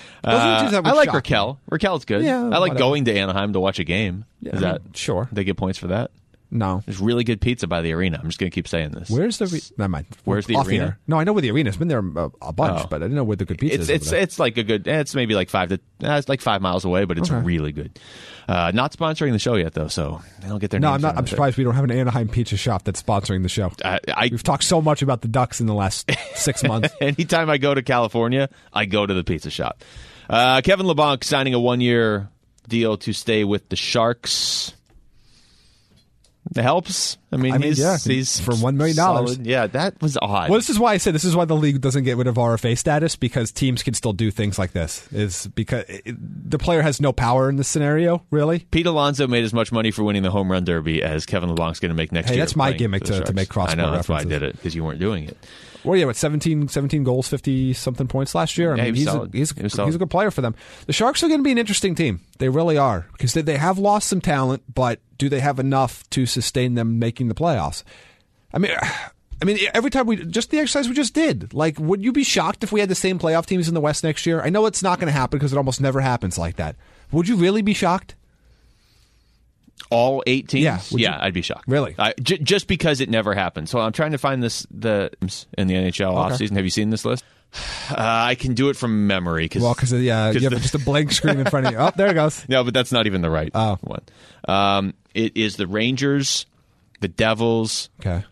I like Raquel. Me. Raquel's good. Yeah, I like whatever. going to Anaheim to watch a game. Yeah, Is I that mean, sure? They get points for that. No. There's really good pizza by the arena. I'm just going to keep saying this. Where's the... Re- Never mind. Where's the Off arena? Here. No, I know where the arena is. I've been there a, a bunch, oh. but I didn't know where the good pizza it's, is. It's over there. it's like a good... It's maybe like five to... Uh, it's like five miles away, but it's okay. really good. Uh, not sponsoring the show yet, though, so they don't get their No, names I'm not. I'm surprised we don't have an Anaheim pizza shop that's sponsoring the show. I, I, We've talked so much about the Ducks in the last six months. Anytime I go to California, I go to the pizza shop. Uh, Kevin LeBlanc signing a one-year deal to stay with the Sharks. It helps. I mean, I mean, he's, yeah, he's for one million dollars. solid. Yeah, that was odd. Well, this is why I said this is why the league doesn't get rid of R F A status, because teams can still do things like this. Is because it, the player has no power in this scenario, really. Pete Alonso made as much money for winning the home run derby as Kevin LeBlanc's going to make next Hey, year. that's my playing gimmick for the to- to Sharks. make cross-sport I know, that's why I references. did it, because you weren't doing it. Well, yeah, what seventeen, seventeen goals, fifty something points last year. I Yeah, mean, he was he's solid. a, he's, He was he's solid. a good player for them. The Sharks are going to be an interesting team. They really are, because they, they have lost some talent, but do they have enough to sustain them making the playoffs? I mean, I mean, every time we just the exercise we just did. Like, would you be shocked if we had the same playoff teams in the West next year? I know it's not going to happen because it almost never happens like that. Would you really be shocked? All eight teams? Yeah, would yeah, you- I'd be shocked. Really? I, j- just because it never happened. So I'm trying to find this the in the N H L Okay. offseason. Have you seen this list? Uh, I can do it from memory. Cause, Well, because yeah, you have the- just a blank screen in front of you. Oh, there it goes. No, but that's not even the right Oh. one. Um, it is the Rangers, the Devils, Okay.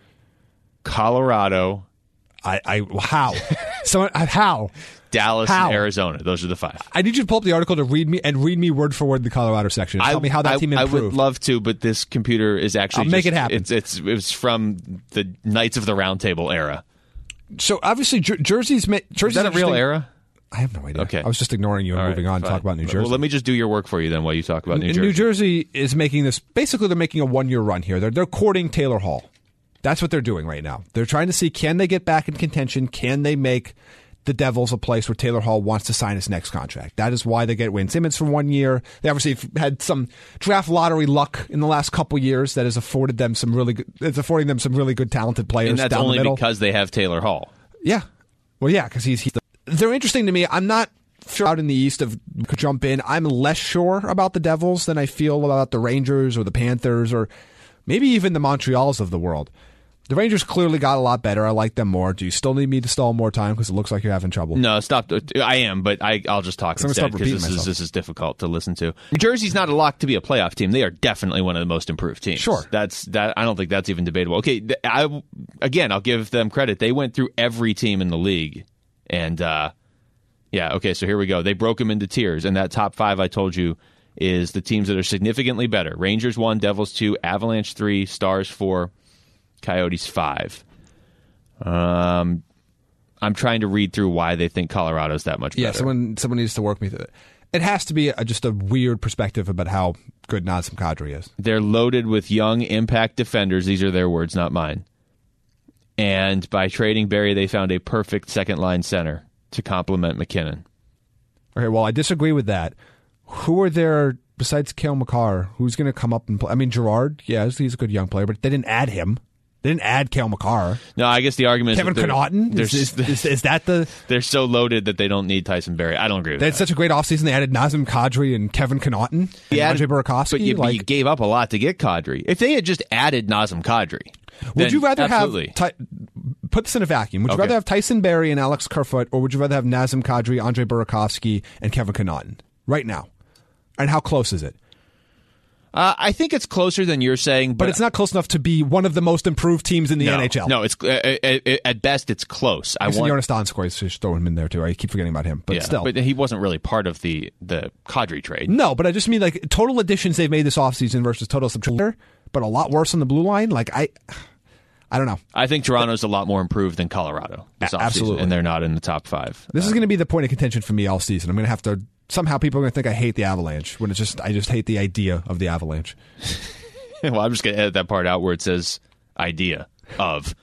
Colorado, I, I how? So how? Dallas, How? and Arizona. Those are the five. I need you to pull up the article to read me and read me word for word the Colorado section. Tell me how that I, team I improved. would love to, but this computer is actually I'll make just- it happen. It's it's it's from the Knights of the Round Table era. so obviously, Jer- Jersey's ma- Jersey's Is that a real interesting- era? I have no idea. Okay. I was just ignoring you and All moving right, on to fine. talk about New Jersey. Well, let me just do your work for you then while you talk about New And Jersey. New Jersey is making this. Basically, they're making a one-year run here. They're they're courting Taylor Hall. That's what they're doing right now. They're trying to see, can they get back in contention? Can they make the Devils a place where Taylor Hall wants to sign his next contract? That is why they get Wayne Simmons for one year. They obviously have had some draft lottery luck in the last couple years that has afforded them some really good. It's affording them some really good talented players and that's down only the middle. because they have Taylor Hall. Yeah. Well, yeah, because he's, he's the, they're interesting to me. I'm not sure out in the East of could jump in. I'm less sure about the Devils than I feel about the Rangers or the Panthers or maybe even the Montreals of the world. The Rangers clearly got a lot better. I like them more. Do you still need me to stall more time because it looks like you're having trouble? No, stop. I am, but I, I'll just talk I'm gonna instead stop because repeating this is myself. this is difficult to listen to. New Jersey's not a lock to be a playoff team. They are definitely one of the most improved teams. Sure. That's that. I don't think that's even debatable. Okay, th- I again, I'll give them credit. They went through every team in the league, and uh, yeah, okay. So here we go. They broke them into tiers, and that top five I told you is the teams that are significantly better. Rangers one, Devils two, Avalanche three, Stars four, Coyotes five. Um, I'm trying to read through why they think Colorado's that much better. Yeah, someone someone needs to work me through it. It has to be a, just a weird perspective about how good Nazem Kadri is. They're loaded with young impact defenders. These are their words, not mine. And by trading Barry, they found a perfect second line center to complement McKinnon. Okay, well, I disagree with that. Who are there besides Cale Makar? Who's going to come up and play? I mean, Gerard, yes, he's a good young player, but they didn't add him. They didn't add Cale Makar. No, I guess the argument Kevin is that they're, Connaughton? they're, Is, is, is, is that the... they're so loaded that they don't need Tyson Barry. I don't agree with They had that. such a great offseason. They added Nazem Kadri and Kevin Connaughton and Yeah, Andre Burakovsky. But you, like, you gave up a lot to get Kadri. If they had just added Nazem Kadri, would then you rather absolutely. have... Ty- put this in a vacuum. Would you Okay. rather have Tyson Barry and Alex Kerfoot, or would you rather have Nazem Kadri, Andre Burakovsky, and Kevin Connaughton right now? And how close is it? Uh, I think it's closer than you're saying, but, But it's not close enough to be one of the most improved teams in the no, N H L. No, it's uh, uh, uh, at best it's close. I I want, Jonas Donskoy, so just throw him in there too. I keep forgetting about him, but yeah, still. but he wasn't really part of the the Kadri trade. No, but I just mean like total additions they've made this offseason versus total subtraction, but a lot worse on the blue line. Like I, I don't know. I think Toronto's a lot more improved than Colorado this A- offseason, absolutely. and they're not in the top five. This is going to be the point of contention for me all season. I'm going to have to somehow people are going to think I hate the Avalanche when it's just I just hate the idea of the Avalanche. Well, I'm just going to edit that part out where it says idea of.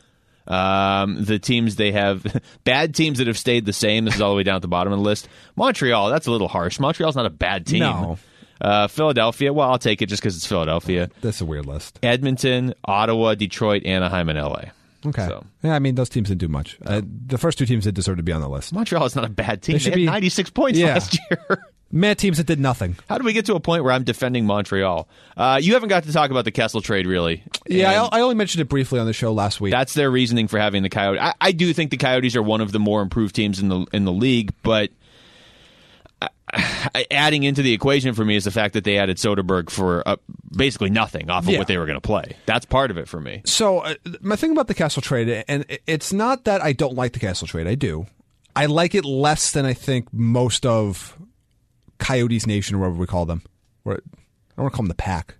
Um, the teams they have, bad teams that have stayed the same. This is all the way down at the bottom of the list. Montreal, that's a little harsh. Montreal's not a bad team. No. Uh, Philadelphia, well, I'll take it just because it's Philadelphia. That's a weird list. Edmonton, Ottawa, Detroit, Anaheim, and L A. Okay. So. Yeah, I mean those teams didn't do much. Uh, the first two teams that deserve to be on the list. Montreal is not a bad team. They They, should had be- ninety-six points Yeah. last year. Mad teams that did nothing. How did we get to a point where I'm defending Montreal? Uh, you haven't got to talk about the Kessel trade, really. Yeah, And I, I only mentioned it briefly on the show last week. that's their reasoning for having the Coyotes. I, I do think the Coyotes are one of the more improved teams in the in the league, but I, I, adding into the equation for me is the fact that they added Soderberg for uh, basically nothing off of Yeah. what they were going to play. That's part of it for me. So uh, my thing about the Castle trade, and it's not that I don't like the Castle trade. I do. I like it less than I think most of Coyotes Nation, or whatever we call them. Or, I don't want to call them the pack.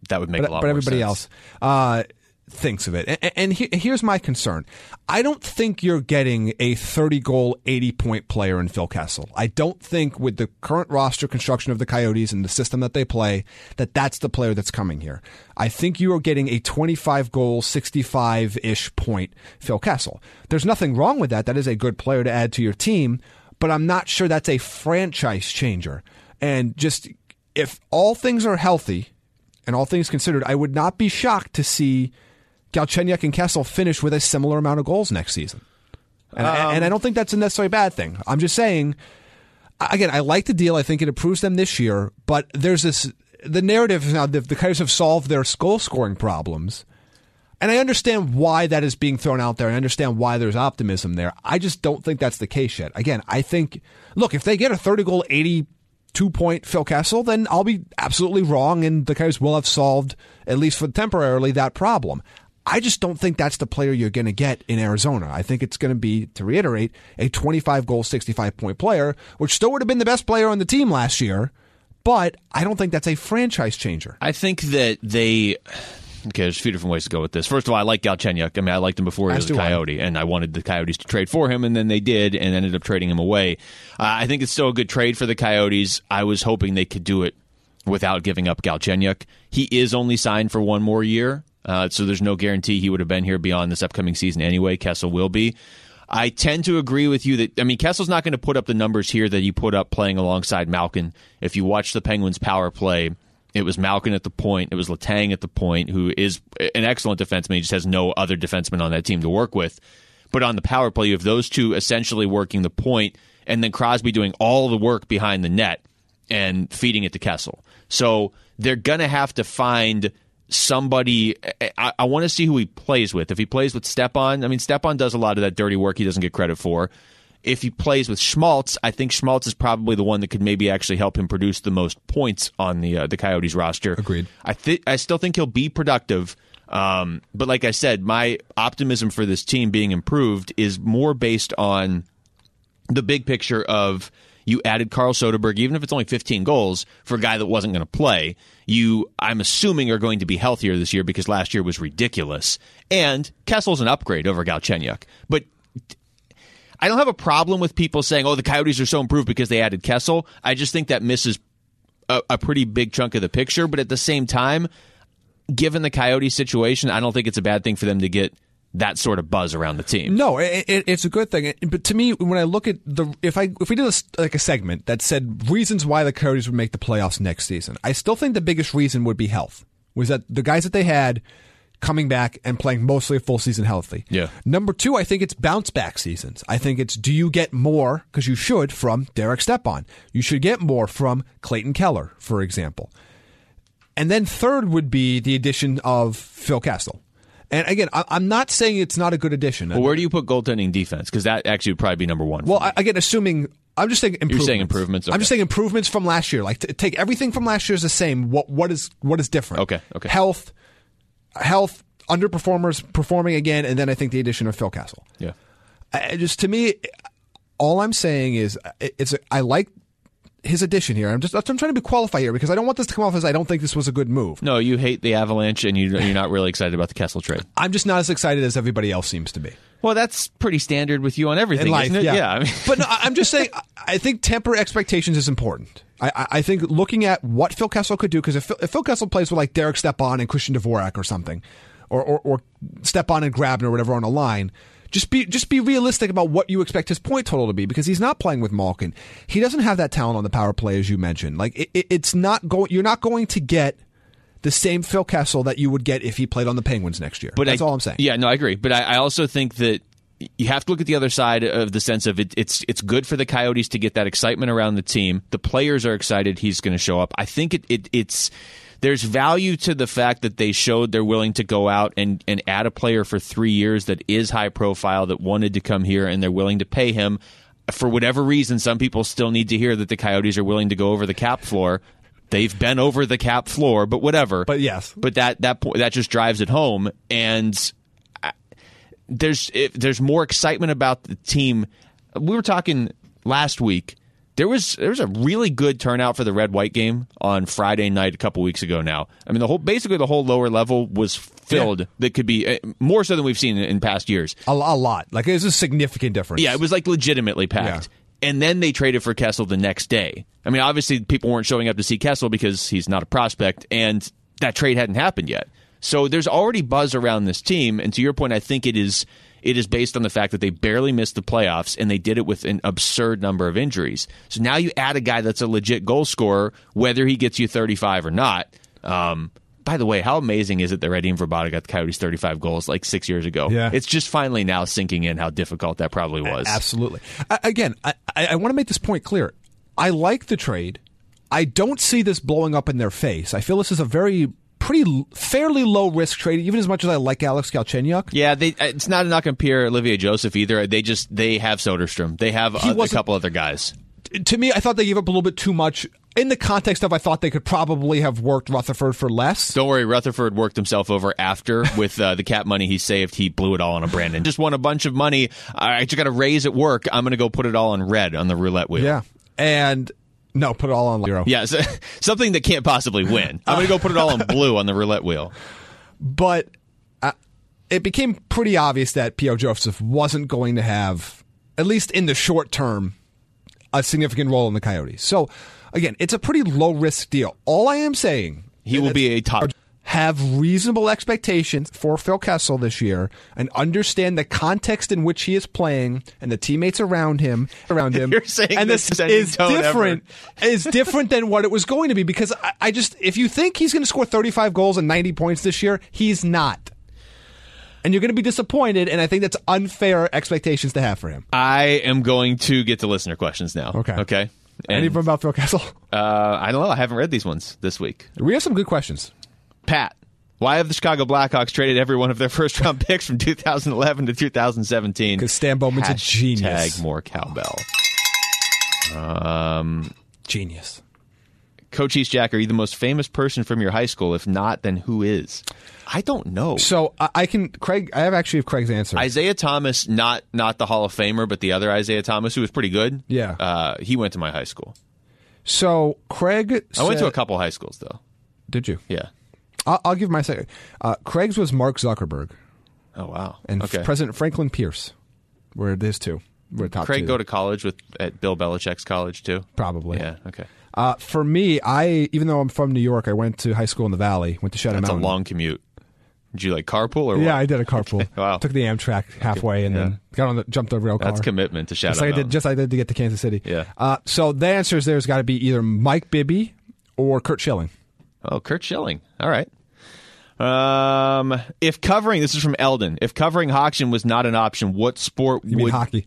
that would make but, a lot but more everybody sense. else uh, thinks of it. And, and he, here's my concern. I don't think you're getting a thirty-goal, eighty-point player in Phil Kessel. I don't think with the current roster construction of the Coyotes and the system that they play, that that's the player that's coming here. I think you are getting a twenty-five-goal, sixty-five-ish point Phil Kessel. There's nothing wrong with that. That is a good player to add to your team, but I'm not sure that's a franchise changer. And just if all things are healthy, and all things considered, I would not be shocked to see Galchenyuk and Kessel finish with a similar amount of goals next season. And, um, and I don't think that's a necessarily bad thing. I'm just saying, again, I like the deal. I think it improves them this year, but there's this, the narrative now, the, the Coyotes have solved their goal scoring problems. And I understand why that is being thrown out there. I understand why there's optimism there. I just don't think that's the case yet. Again, I think, look, if they get a thirty-goal, eighty-two-point Phil Kessel, then I'll be absolutely wrong, and the Coyotes will have solved, at least for temporarily, that problem. I just don't think that's the player you're going to get in Arizona. I think it's going to be, to reiterate, a twenty-five-goal, sixty-five-point player, which still would have been the best player on the team last year, but I don't think that's a franchise changer. I think that they... Okay, there's a few different ways to go with this. First of all, I like Galchenyuk. I mean, I liked him before he was a Coyote, and I wanted the Coyotes to trade for him, and then they did, and ended up trading him away. Uh, I think it's still a good trade for the Coyotes. I was hoping they could do it without giving up Galchenyuk. He is only signed for one more year, uh, so there's no guarantee he would have been here beyond this upcoming season anyway. Kessel will be. I tend to agree with you that, I mean, Kessel's not going to put up the numbers here that he put up playing alongside Malkin. If you watch the Penguins' power play, it was Malkin at the point. It was Letang at the point, who is an excellent defenseman. He just has no other defenseman on that team to work with. But on the power play, you have those two essentially working the point, and then Crosby doing all the work behind the net and feeding it to Kessel. So they're going to have to find somebody. I, I want to see who he plays with. If he plays with Stepan, I mean, Stepan does a lot of that dirty work he doesn't get credit for. If he plays with Schmaltz, I think Schmaltz is probably the one that could maybe actually help him produce the most points on the uh, the Coyotes roster. Agreed. I th- I still think he'll be productive, um, but like I said, my optimism for this team being improved is more based on the big picture of you added Carl Soderberg, even if it's only fifteen goals, for a guy that wasn't going to play. You, I'm assuming, are going to be healthier this year because last year was ridiculous. And Kessel's an upgrade over Galchenyuk. But I don't have a problem with people saying, oh, the Coyotes are so improved because they added Kessel. I just think that misses a, a pretty big chunk of the picture. But at the same time, given the Coyotes situation, I don't think it's a bad thing for them to get that sort of buzz around the team. No, it, it, it's a good thing. But to me, when I look at the, if I if we did a, like a segment that said reasons why the Coyotes would make the playoffs next season, I still think the biggest reason would be health. Was that the guys that they had coming back and playing mostly a full season healthy. Yeah. Number two, I think it's bounce back seasons. I think it's, do you get more, because you should, from Derek Stepan. You should get more from Clayton Keller, for example. And then third would be the addition of Phil Kessel. And again, I'm not saying it's not a good addition. Well, where do you put goaltending defense? Because that actually would probably be number one. Well, I, again, assuming, I'm just saying improvements. You're saying improvements? Okay. I'm just saying improvements from last year. Like, t- take everything from last year is the same. What What is what is different? Okay, okay. Health, health, underperformers performing again, and then I think the addition of Phil Kessel. Yeah. I, just to me, all I'm saying is it's a, I like his addition here. I'm just I'm trying to be qualified here because I don't want this to come off as I don't think this was a good move. No, you hate the Avalanche and you, you're not really excited about the Kessel trade. I'm just not as excited as everybody else seems to be. Well, that's pretty standard with you on everything, in life, isn't it? Yeah. yeah I mean. But no, I'm just saying, I think temper expectations is important. I, I think looking at what Phil Kessel could do, because if, if Phil Kessel plays with like Derek Stepan and Christian Dvorak or something, or, or, or Stepan and Grabner or whatever on a line, just be just be realistic about what you expect his point total to be, because he's not playing with Malkin. He doesn't have that talent on the power play, as you mentioned. Like it, it, it's not going. You're not going to get the same Phil Kessel that you would get if he played on the Penguins next year. But that's I, all I'm saying. Yeah, no, I agree. But I, I also think that you have to look at the other side of the sense of it, it's it's good for the Coyotes to get that excitement around the team. The players are excited he's going to show up. I think it, it it's there's value to the fact that they showed they're willing to go out and, and add a player for three years that is high profile, that wanted to come here, and they're willing to pay him. For whatever reason, some people still need to hear that the Coyotes are willing to go over the cap floor. They've been over the cap floor, but whatever. But yes. But that that that just drives it home, and there's if there's more excitement about the team. We were talking last week There was there was a really good turnout for the red-white game on Friday night a couple weeks ago now. I mean, the whole basically the whole lower level was filled. Yeah. That could be uh, more so than we've seen in, in past years. A, a lot. Like, it was a significant difference. Yeah, it was like legitimately packed. Yeah. And then they traded for Kessel the next day. I mean, obviously people weren't showing up to see Kessel because he's not a prospect, and that trade hadn't happened yet. So there's already buzz around this team, and to your point, I think it is it is based on the fact that they barely missed the playoffs, and they did it with an absurd number of injuries. So now you add a guy that's a legit goal scorer, whether he gets you thirty-five or not. Um, by the way, how amazing is it that Radim Vrbata got the Coyotes thirty-five goals like six years ago? Yeah. It's just finally now sinking in how difficult that probably was. Absolutely. I, again, I, I want to make this point clear. I like the trade. I don't see this blowing up in their face. I feel this is a very pretty fairly low risk trade, even as much as I like Alex Galchenyuk. Yeah, they, it's not not going to Pierre Olivier Joseph either. They just they have Soderstrom. They have a, a couple other guys. To me, I thought they gave up a little bit too much in the context of I thought they could probably have worked Rutherford for less. Don't worry, Rutherford worked himself over after with uh, the cap money he saved. He blew it all on a Brandon. Just won a bunch of money. I just got a raise at work. I'm going to go put it all on red on the roulette wheel. Yeah, and. No, put it all on zero. Yeah, so, something that can't possibly win. I'm going to go put it all on blue on the roulette wheel. But uh, it became pretty obvious that P O. Joseph wasn't going to have, at least in the short term, a significant role in the Coyotes. So, again, it's a pretty low-risk deal. All I am saying... He will be a top... Have reasonable expectations for Phil Kessel this year and understand the context in which he is playing and the teammates around him around him. You're saying and this is different ever. is different than what it was going to be, because I, I just if you think he's going to score thirty-five goals and ninety points this year, he's not. And you're going to be disappointed, and I think that's unfair expectations to have for him. I am going to get to listener questions now. Okay. Okay. And, Any of them about Phil Kessel? Uh, I don't know. I haven't read these ones this week. We have some good questions. Pat, why have the Chicago Blackhawks traded every one of their first-round picks from two thousand eleven to two thousand seventeen? Because Stan Bowman's a genius. Hashtag more cowbell. Um, genius. Coach Eastjack, are you the most famous person from your high school? If not, then who is? I don't know. So I, I can, Craig. I have actually have Craig's answer. Isaiah Thomas, not not the Hall of Famer, but the other Isaiah Thomas, who was pretty good. Yeah. Uh, he went to my high school. So Craig, I went said, to a couple high schools though. Did you? Yeah. I'll, I'll give my second. Uh, Craig's was Mark Zuckerberg. Oh wow! And okay. President Franklin Pierce were his two. Were top Craig two. go to college with at Bill Belichick's college too. Probably. Yeah. Okay. Uh, for me, I even though I'm from New York, I went to high school in the Valley. Went to Shadow That's Mountain. a long commute. Did you like carpool or what? Yeah, I did a carpool. Okay. Wow. Took the Amtrak halfway and Yeah. then got on the jumped the rail car. That's commitment to Shadow Just like I Mountain. did, just like I did to get to Kansas City. Yeah. Uh, so the answers there's got to be either Mike Bibby or Kurt Schilling. Oh, Kurt Schilling. All right. Um, if covering this is from Eldon. If covering Hawkshin was not an option, what sport You would mean hockey?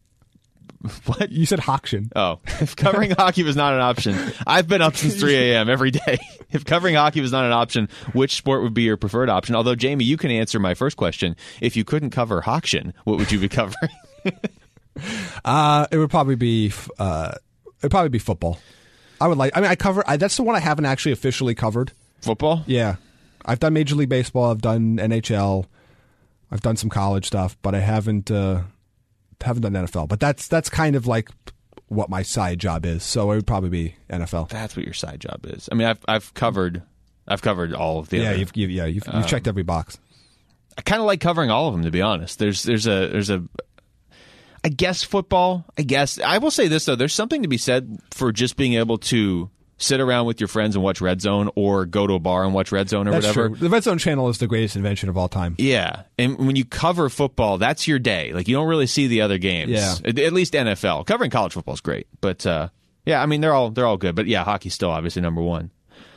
What? You said Hawkshin. Oh, if covering hockey was not an option, I've been up since three a.m. every day. If covering hockey was not an option, which sport would be your preferred option? Although, Jamie, you can answer my first question. If you couldn't cover Hawkshin, what would you be covering? uh, it would probably be uh, it'd probably be football. I would like. I mean, I cover. I, that's the one I haven't actually officially covered. Football? Yeah, I've done Major League Baseball. I've done N H L. I've done some college stuff, but I haven't uh, haven't done N F L. But that's that's kind of like what my side job is. So it would probably be N F L. That's what your side job is. I mean, I've I've covered I've covered all of the. Yeah, other, you've, you've yeah you've, you've um, checked every box. I kind of like covering all of them, to be honest. There's there's a there's a. I guess football. I guess I will say this though. There's something to be said for just being able to sit around with your friends and watch Red Zone, or go to a bar and watch Red Zone or That's whatever. True. The Red Zone channel is the greatest invention of all time. Yeah, and when you cover football, that's your day. Like, you don't really see the other games. Yeah. At, at least N F L. Covering college football is great, but uh, yeah, I mean they're all they're all good. But yeah, hockey's still obviously number one.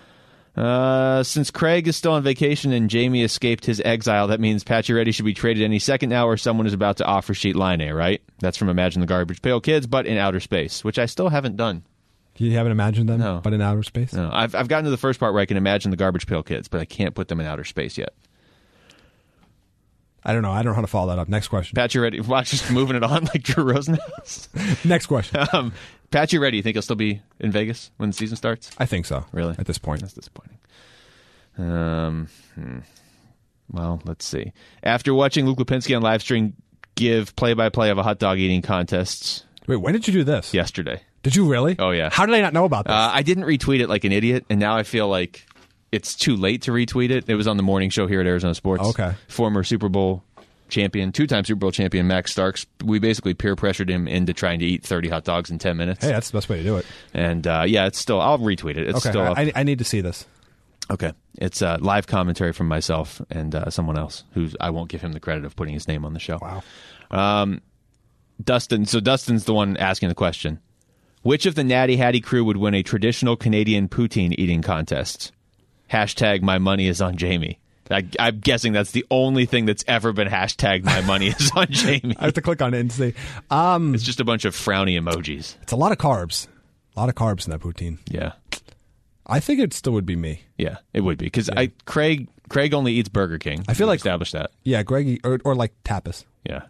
Uh, since Craig is still on vacation and Jamie escaped his exile, that means Pacioretty should be traded any second now, or someone is about to offer sheet Laine, right? That's from Imagine the Garbage Pail Kids, but in outer space, which I still haven't done. You haven't imagined them, No. but in outer space? No, I've I've gotten to the first part where I can imagine the Garbage Pail Kids, but I can't put them in outer space yet. I don't know. I don't know how to follow that up. Next question. Pacioretty, watch, just moving it on like Drew Rosenhaus. Next question. um, Pacioretty, you think he'll still be in Vegas when the season starts? I think so. Really? At this point. That's disappointing. Um, hmm. Well, let's see. After watching Luke Lipinski on live stream give play-by-play of a hot dog eating contest Wait, when did you do this? yesterday, Did you really? Oh, yeah. How did I not know about this? Uh, I didn't retweet it like an idiot, and now I feel like it's too late to retweet it. It was on the morning show here at Arizona Sports. Okay. Former Super Bowl champion, two-time Super Bowl champion Max Starks. We basically peer pressured him into trying to eat thirty hot dogs in ten minutes. Hey, that's the best way to do it. And uh, yeah, it's still. I'll retweet it. It's Okay, still up. I, I need to see this. Okay, it's uh, live commentary from myself and uh, someone else who I won't give him the credit of putting his name on the show. Wow. Um, Dustin. So Dustin's the one asking the question. Which of the Natty Hattie crew would win a traditional Canadian poutine eating contest? Hashtag my money is on Jamie. I, I'm guessing that's the only thing that's ever been hashtagged my money is on Jamie. I have to click on it and see. Um, It's just a bunch of frowny emojis. it's a lot of carbs. A lot of carbs in that poutine. Yeah. I think it still would be me. Yeah, it would be. Because I Craig Craig only eats Burger King. I feel We've like- established that. Yeah, Greggy, or, or like tapas. Yeah.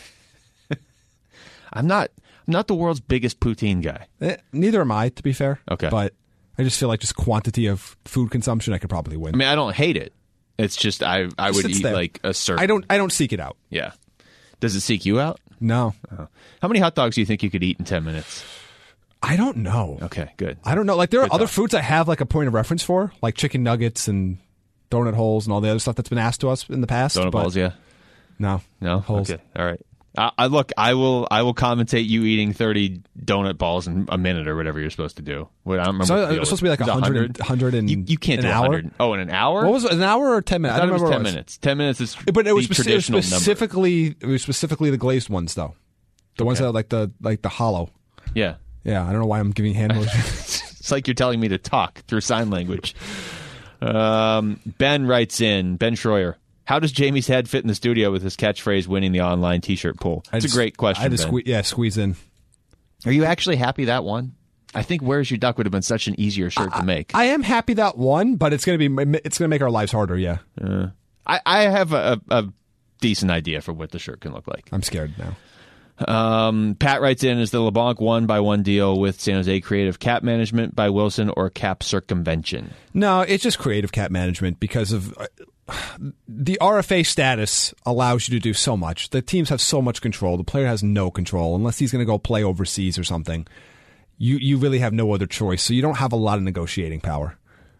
I'm not I'm not the world's biggest poutine guy. Eh, neither am I, to be fair. Okay. But I just feel like just quantity of food consumption, I could probably win. I mean, I don't hate it. It's just I I would sits eat there. like a certain. I don't. I don't seek it out. Yeah. Does it seek you out? No, How many hot dogs do you think you could eat in ten minutes? I don't know. Okay, good. I don't know. Like there are Good other thought. foods I have like a point of reference for, like chicken nuggets and donut holes and all the other stuff that's been asked to us in the past. Donut but balls, yeah. No, No. holes. Okay. All right. I, I look. I will. I will commentate you eating thirty donut balls in a minute or whatever you're supposed to do. What I don't remember. So what it the was deal supposed to be like was. a It was hundred, hundred and You, you can't an do hour. one hundred. Oh, in an hour? What was it? An hour or ten minutes? I thought don't it was remember ten what minutes. Ten minutes is But it was, the speci- it was traditional number. specifically it was specifically the glazed ones though, the ones Okay. that are like the like the hollow. Yeah. Yeah, I don't know why I'm giving hand motions. It's like you're telling me to talk through sign language. Um, Ben writes in, Ben Schroyer, how does Jamie's head fit in the studio with his catchphrase winning the online T-shirt poll? I It's just- a great question, I had to Ben. squeeze, yeah, squeeze in. Are you actually happy that one? I think Where's Your Duck would have been such an easier shirt to make. I am happy that one, but it's gonna be it's gonna make our lives harder. Yeah, I, I have a, a, a decent idea for what the shirt can look like. I'm scared now. Um, Pat writes in, is the LeBlanc one by one deal with San Jose Creative cap management by Wilson or cap circumvention? No, it's just creative cap management because of uh, the R F A status allows you to do so much. The teams have so much control. The player has no control unless he's going to go play overseas or something. You you really have no other choice. So you don't have a lot of negotiating power.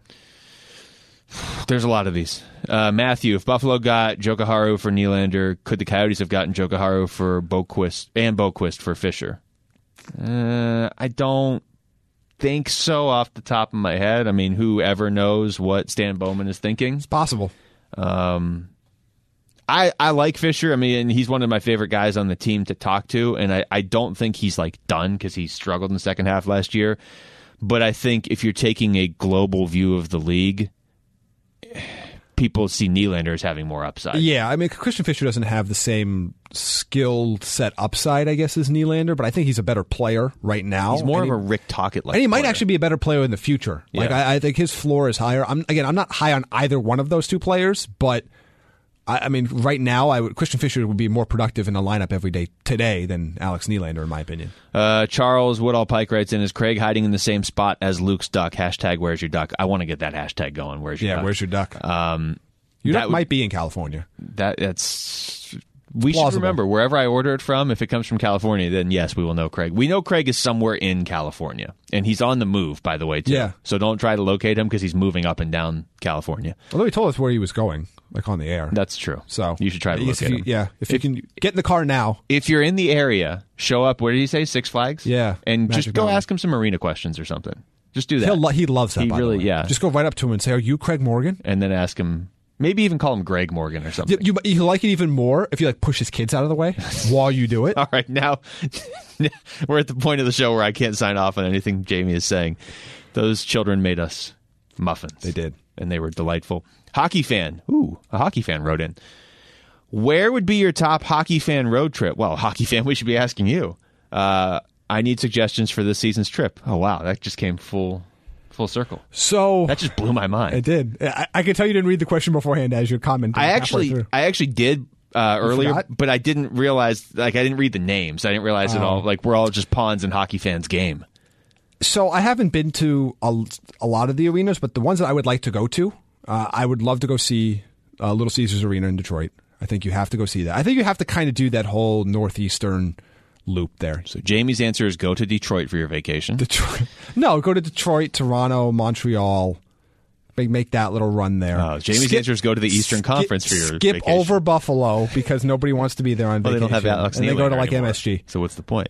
There's a lot of these. Uh, Matthew, if Buffalo got Jokiharju for Nylander, could the Coyotes have gotten Jokiharju for Boquist and Boquist for Fisher? Uh, I don't think so off the top of my head. I mean, whoever knows what Stan Bowman is thinking. It's possible. Um, I I like Fisher. I mean, and he's one of my favorite guys on the team to talk to, and I, I don't think he's like done because he struggled in the second half last year. But I think if you're taking a global view of the league, people see Nylander as having more upside. Yeah, I mean, Christian Fisher doesn't have the same skill set upside, I guess, as Nylander, but I think he's a better player right now. He's more and of he, a Rick Tocchet like and he might player. actually be a better player in the future. Like Yeah. I, I think his floor is higher. I'm again, I'm not high on either one of those two players, but I, I mean, right now, I would, Christian Fisher would be more productive in the lineup every day today than Alex Nylander, in my opinion. Uh, Charles Woodall Pike writes in, is Craig hiding in the same spot as Luke's duck? Hashtag Where's Your Duck? I want to get that hashtag going. Where's Your Yeah, Duck? where's your duck? Um, your that duck would- might be in California. that that's we should Plausible. remember wherever I order it from. If it comes from California, then yes, we will know Craig. We know Craig is somewhere in California, and he's on the move, by the way. Too. Yeah. So don't try to locate him because he's moving up and down California. Although he told us where he was going, like on the air. That's true. So you should try to I guess locate if you, him. Yeah, if, you can get in the car now. If you're in the area, show up. Where did he say? Six Flags. Yeah, and Magic just go Mountain. ask him some arena questions or something. Just do that. He'll lo- he loves that. He by the really- way. yeah. Just go right up to him and say, "Are you Craig Morgan?" and then ask him. Maybe even call him Greg Morgan or something. You, you, you like it even more if you like push his kids out of the way while you do it. All right, now we're at the point of the show where I can't sign off on anything Jamie is saying. Those children made us muffins. They did. And they were delightful. Hockey fan. Ooh, a hockey fan wrote in. Where would be your top hockey fan road trip? Well, hockey fan, we should be asking you. Uh, I need suggestions for this season's trip. Oh, wow, that just came full full circle. So That just blew my mind. I did. I, I can tell you didn't read the question beforehand as your comment. I actually, I actually did uh, earlier, forgot? but I didn't realize. Like, I didn't read the names. I didn't realize it all. Like, we're all just pawns in hockey fans' game. So I haven't been to a, a lot of the arenas, but the ones that I would like to go to, uh, I would love to go see uh, Little Caesars Arena in Detroit. I think you have to go see that. I think you have to kind of do that whole northeastern, loop there. So Jamie's answer is go to Detroit for your vacation. Detroit. No, go to Detroit, Toronto, Montreal. Make, make that little run there. Uh, Jamie's skip, answer is go to the Eastern skip, Conference for your skip vacation. over Buffalo because nobody wants to be there on well, vacation. they don't have Alex and they Nylander go to like anymore. M S G. So what's the point?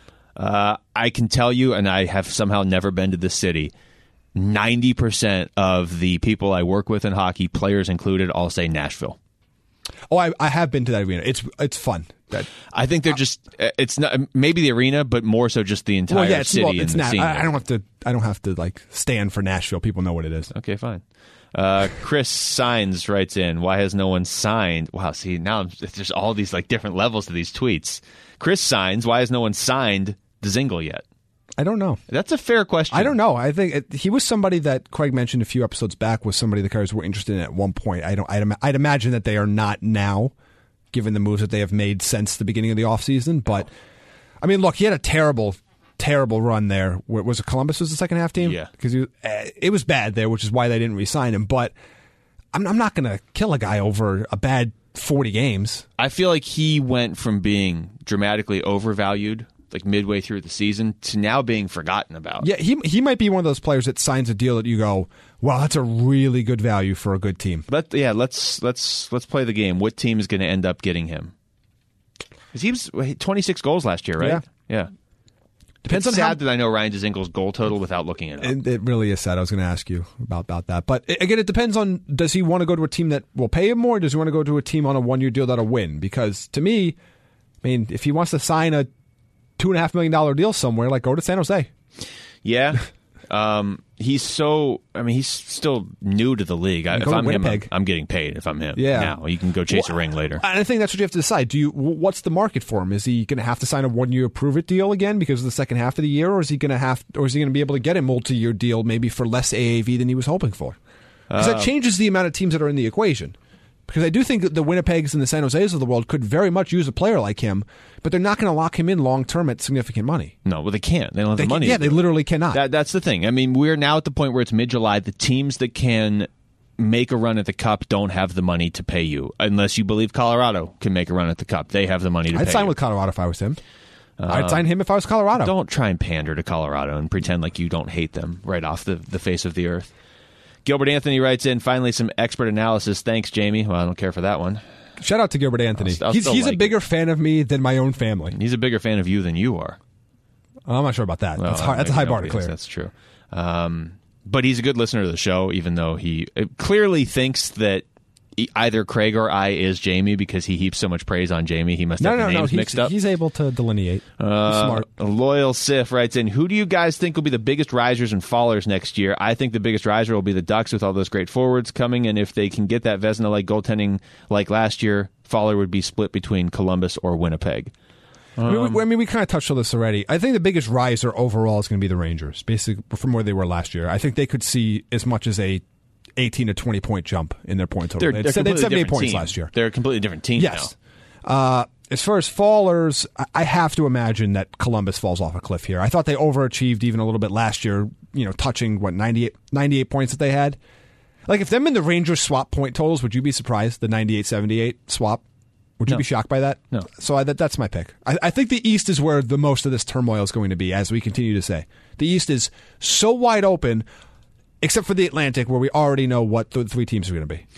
Uh, I can tell you, and I have somehow never been to this city, ninety percent of the people I work with in hockey, players included, all say Nashville. Oh, I, I have been to that arena. It's it's fun. That, I think they're just, it's not maybe the arena, but more so just the entire well, yeah, it's, city well, and it's the not. scene. I, I don't have to. I don't have to like stand for Nashville. People know what it is. Okay, fine. Uh, Chris Signs writes in, why has no one signed? Wow, see, now I'm, there's all these like different levels to these tweets. Chris Signs, why has no one signed Dzingel yet? I don't know. That's a fair question. I don't know. I think it, he was somebody that Craig mentioned a few episodes back was somebody the Cards were interested in at one point. I don't. I'd, ima- I'd imagine that they are not now, given the moves that they have made since the beginning of the offseason. But I mean, look, he had a terrible, terrible run there. Where, was it Columbus was the second half team? Yeah, because uh, it was bad there, which is why they didn't re-sign him. But I'm, I'm not going to kill a guy over a bad forty games. I feel like he went from being dramatically overvalued, like midway through the season, to now being forgotten about. Yeah, he he might be one of those players that signs a deal that you go, wow, that's a really good value for a good team. But yeah, let's let's let's play the game. What team is going to end up getting him? Because he was twenty-six goals last year, right? Yeah. Yeah. Depends it's on sad how, that I know Ryan Dzingel's goal total without looking it up. It, it really is sad. I was going to ask you about, about that. But again, it depends on, does he want to go to a team that will pay him more, or does he want to go to a team on a one-year deal that'll win? Because to me, I mean, if he wants to sign a two and a half million dollar deal somewhere, like go to San Jose. Yeah. Um, he's so, I mean, he's still new to the league. I, if go to I'm him, I'm, Winnipeg. I'm getting paid if I'm him. Yeah. Now. You can go chase Well, a ring later. And I think that's what you have to decide. Do you? What's the market for him? Is he going to have to sign a one-year prove-it deal again because of the second half of the year, or is he going to have, or is he going to be able to get a multi-year deal maybe for less A A V than he was hoping for? Because Uh, that changes the amount of teams that are in the equation. Because I do think that the Winnipegs and the San Jose's of the world could very much use a player like him, but they're not going to lock him in long-term at significant money. No, well, they can't. They don't have They the can- money. yeah, to they do it. literally cannot. That, that's the thing. I mean, we're now at the point where it's mid-July. The teams that can make a run at the Cup don't have the money to pay you, unless you believe Colorado can make a run at the Cup. They have the money to I'd pay sign you. with Colorado if I was him. I'd sign him if I was Colorado. Don't try and pander to Colorado and pretend like you don't hate them right off the, the face of the earth. Gilbert Anthony writes in, finally some expert analysis. Thanks, Jamie. Well, I don't care for that one. Shout out to Gilbert Anthony. I'll- I'll he's still he's like a it. bigger fan of me than my own family. He's a bigger fan of you than you are. I'm not sure about that. Well, that's hard, that's a high bar to yes, clear. That's true. Um, but he's a good listener to the show, even though he uh, clearly thinks that e- either Craig or I is Jamie because he heaps so much praise on Jamie. He must No, have no, the no. names He's, mixed up. he's able to delineate. He's Uh, smart. a loyal Sif writes in, who do you guys think will be the biggest risers and fallers next year? I think the biggest riser will be the Ducks with all those great forwards coming, and if they can get that Vezina-like goaltending like last year, faller would be split between Columbus or Winnipeg. I mean, we, I mean, we kind of touched on this already. I think the biggest riser overall is going to be the Rangers, basically from where they were last year. I think they could see as much as a eighteen to twenty point jump in their point total. They're, They they're had- they completely had seventy-eight different points team. last year. They're a completely different team Yes. now. Uh, as far as fallers, I- I have to imagine that Columbus falls off a cliff here. I thought they overachieved even a little bit last year, you know, touching, what, ninety-eight, ninety-eight points that they had. Like, if them and the Rangers swap point totals, would you be surprised, the ninety-eight seventy-eight swap? Would you No. be shocked by that? No. So I, that, that's my pick. I, I think the East is where the most of this turmoil is going to be, as we continue to say. The East is so wide open, except for the Atlantic, where we already know what the three teams are going to be.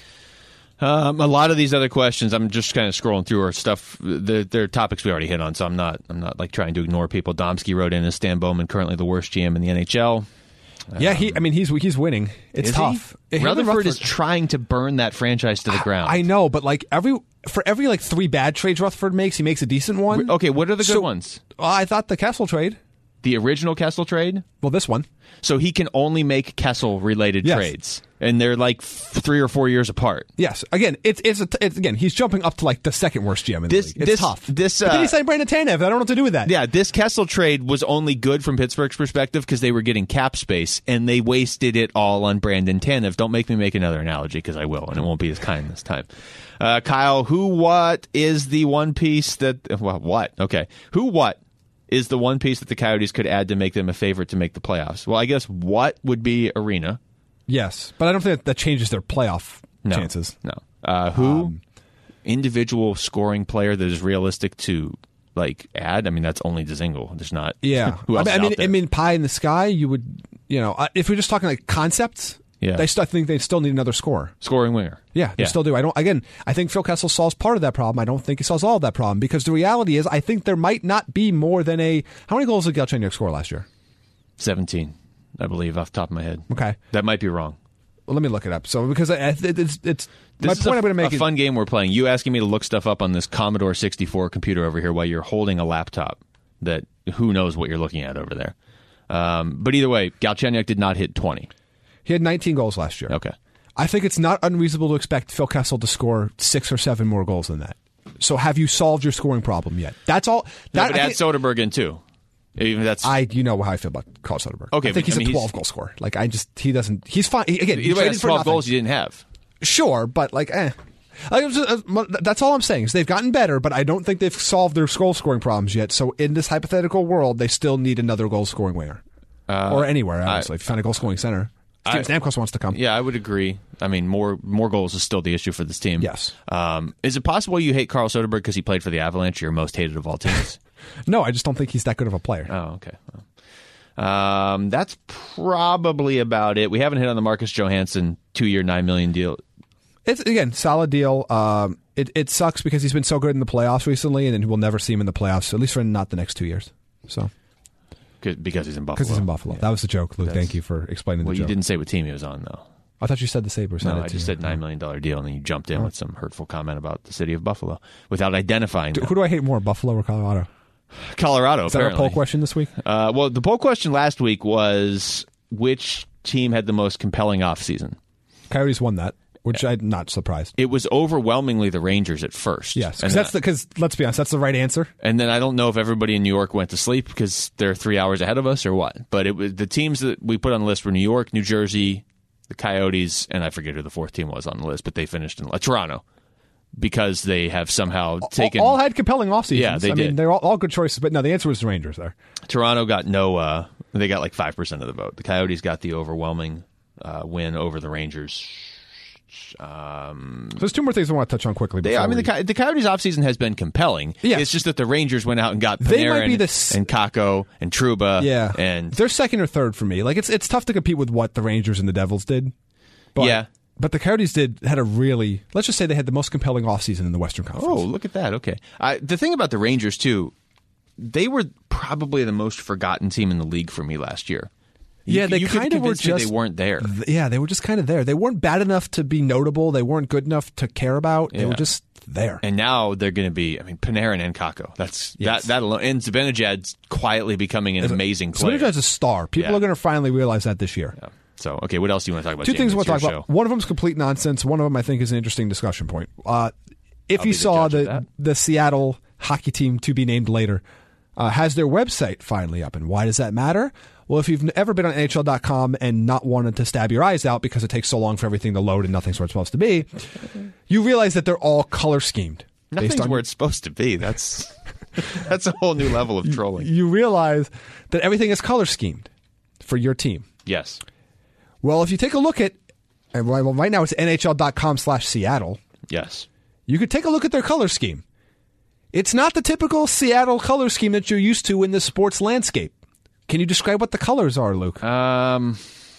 Um, a lot of these other questions, I'm just kind of scrolling through our stuff. They're, they're topics we already hit on, so I'm not. I'm not like trying to ignore people. Domsky wrote in, is Stan Bowman currently the worst G M in the N H L? Yeah, he. I mean, he's he's winning. It's Is tough. he? Him and Rutherford is trying to burn that franchise to the ground. I know, but like every for every like three bad trades Rutherford makes, he makes a decent one. Okay, what are the good So- ones? Well, I thought the Kessel trade. The original Kessel trade? Well, this one. So he can only make Kessel-related Yes. trades, and they're like f- three or four years apart. Yes. Again, it's it's, a, it's again. He's jumping up to like the second worst G M in the This- league. It's this- tough. this, but then uh, he signed Brandon Tanev. I don't know what to do with that. Yeah, this Kessel trade was only good from Pittsburgh's perspective because they were getting cap space, and they wasted it all on Brandon Tanev. Don't make me make another analogy because I will, and it won't be as kind this time. Uh, Kyle, who, what is the one piece that... Well, what? Okay. Who, what is the one piece that the Coyotes could add to make them a favorite to make the playoffs? Well, I guess what would be Arena. Yes, but I don't think that, that changes their playoff No, chances. No. Uh, who? Individual scoring player that is realistic to like add. I mean, that's only Dzingel. There's not. Yeah, Who else I is mean, out there? I mean, pie in the sky. You would, you know, uh, if we're just talking like concepts. Yeah. They still I think they still need another scorer. Scoring winger. Yeah, they Yeah. still do. I don't. Again, I think Phil Kessel solves part of that problem. I don't think he solves all of that problem because the reality is, I think there might not be more than a. How many goals did Galchenyuk score last year? seventeen, I believe, off the top of my head. Okay, That might be wrong. well, let me look it up. So because I, it, it's it's This my is point a, I'm going to make a is fun game we're playing. You asking me to look stuff up on this Commodore sixty-four computer over here while you're holding a laptop that who knows what you're looking at over there. Um, but either way, Galchenyuk did not hit twenty. he had nineteen goals last year. Okay. I think it's not unreasonable to expect Phil Kessel to score six or seven more goals than that. So have you solved your scoring problem yet? That's all. No, That, but I add think- Soderberg in too. Even that's I, you know how I feel about Carl Soderberg. Okay, I think but, he's I mean, a he's- twelve goal scorer. Like I just, he doesn't. He's fine. He, again, he either way, traded that's for twelve nothing. goals you didn't have. Sure, but like, eh. Like, it was just, uh, that's all I'm saying is they've gotten better, but I don't think they've solved their goal scoring problems yet. So in this hypothetical world, they still need another goal scoring winger, Uh, or anywhere. I- Honestly, if you find a goal scoring center, I- Steven Stamkos wants to come. Yeah, I would agree. I mean, more more goals is still the issue for this team. Yes. Um, is it possible you hate Carl Soderberg because he played for the Avalanche, your most hated of all teams? No, I just don't think he's that good of a player. Oh, okay. Well, um, that's probably about it. We haven't hit on the Marcus Johansson two-year, nine million deal. It's again solid deal. Um, it it sucks because he's been so good in the playoffs recently, and then we'll never see him in the playoffs, at least for not the next two years. So Because he's in Buffalo. because he's in Buffalo, that was the joke, Luke. That's- Thank you for explaining Well, the you joke. didn't say what team he was on, though. I thought you said the Sabres. No, had it I too. just said nine million dollar deal, and then you jumped in with some hurtful comment about the city of Buffalo without identifying Do- them. Who do I hate more, Buffalo or Colorado? Colorado. Is that our apparently. poll question this week? Uh, well, the poll question last week was which team had the most compelling offseason. Coyotes won that, which I'm not surprised. It was overwhelmingly the Rangers at first. Yes, and because that's because let's be honest, that's the right answer. And then I don't know if everybody in New York went to sleep because they're three hours ahead of us or what. But it was the teams that we put on the list were New York, New Jersey, the Coyotes, and I forget who the fourth team was on the list, but they finished in uh, Toronto because they have somehow taken. all, all had compelling off seasons. Yeah, they I mean, did. they're all, all good choices. But no, the answer was the Rangers there. Toronto got no. Uh, they got like five percent of the vote. The Coyotes got the overwhelming uh, win over the Rangers. Um, So there's two more things I want to touch on quickly. They, before I mean, we- the, Coy- the Coyotes' offseason has been compelling. Yeah. It's just that the Rangers went out and got They might Panarin be the s- and Kakko and Trouba. yeah, And they're second or third for me. Like it's it's tough to compete with what the Rangers and the Devils did. But, Yeah. but the Coyotes did had a really let's just say they had the most compelling offseason in the Western Conference. oh, look at that. Okay. I, the thing about the Rangers, too, they were probably the most forgotten team in the league for me last year. You Yeah, could- they you could kind of were convince me just they weren't there. Th- Yeah, they were just kind of there. They weren't bad enough to be notable. They weren't good enough to care about. They Yeah. were just there. And now they're going to be, I mean, Panarin and Kakko. That's Yes. that that alone. And Zibanejad's quietly becoming an amazing player. Zibanejad's a star. People Yeah. are going to finally realize that this year. Yeah. So, okay, what else do you want to talk about? Two James? things I want It's to talk your about. show. One of them is complete nonsense. One of them I think is an interesting discussion point. Uh, if I'll you be the saw judge of the that. the Seattle hockey team to be named later uh, has their website finally up, and why does that matter? Well, if you've ever been on N H L dot com and not wanted to stab your eyes out because it takes so long for everything to load and nothing's where it's supposed to be, you realize that they're all color schemed. based Nothing's on- where it's supposed to be. That's that's a whole new level of trolling. You realize that everything is color schemed for your team. Yes. Well, if you take a look at, and well, right now it's N H L dot com slash Seattle. Yes. You could take a look at their color scheme. It's not the typical Seattle color scheme that you're used to in the sports landscape. Can you describe what the colors are, Luke? Um,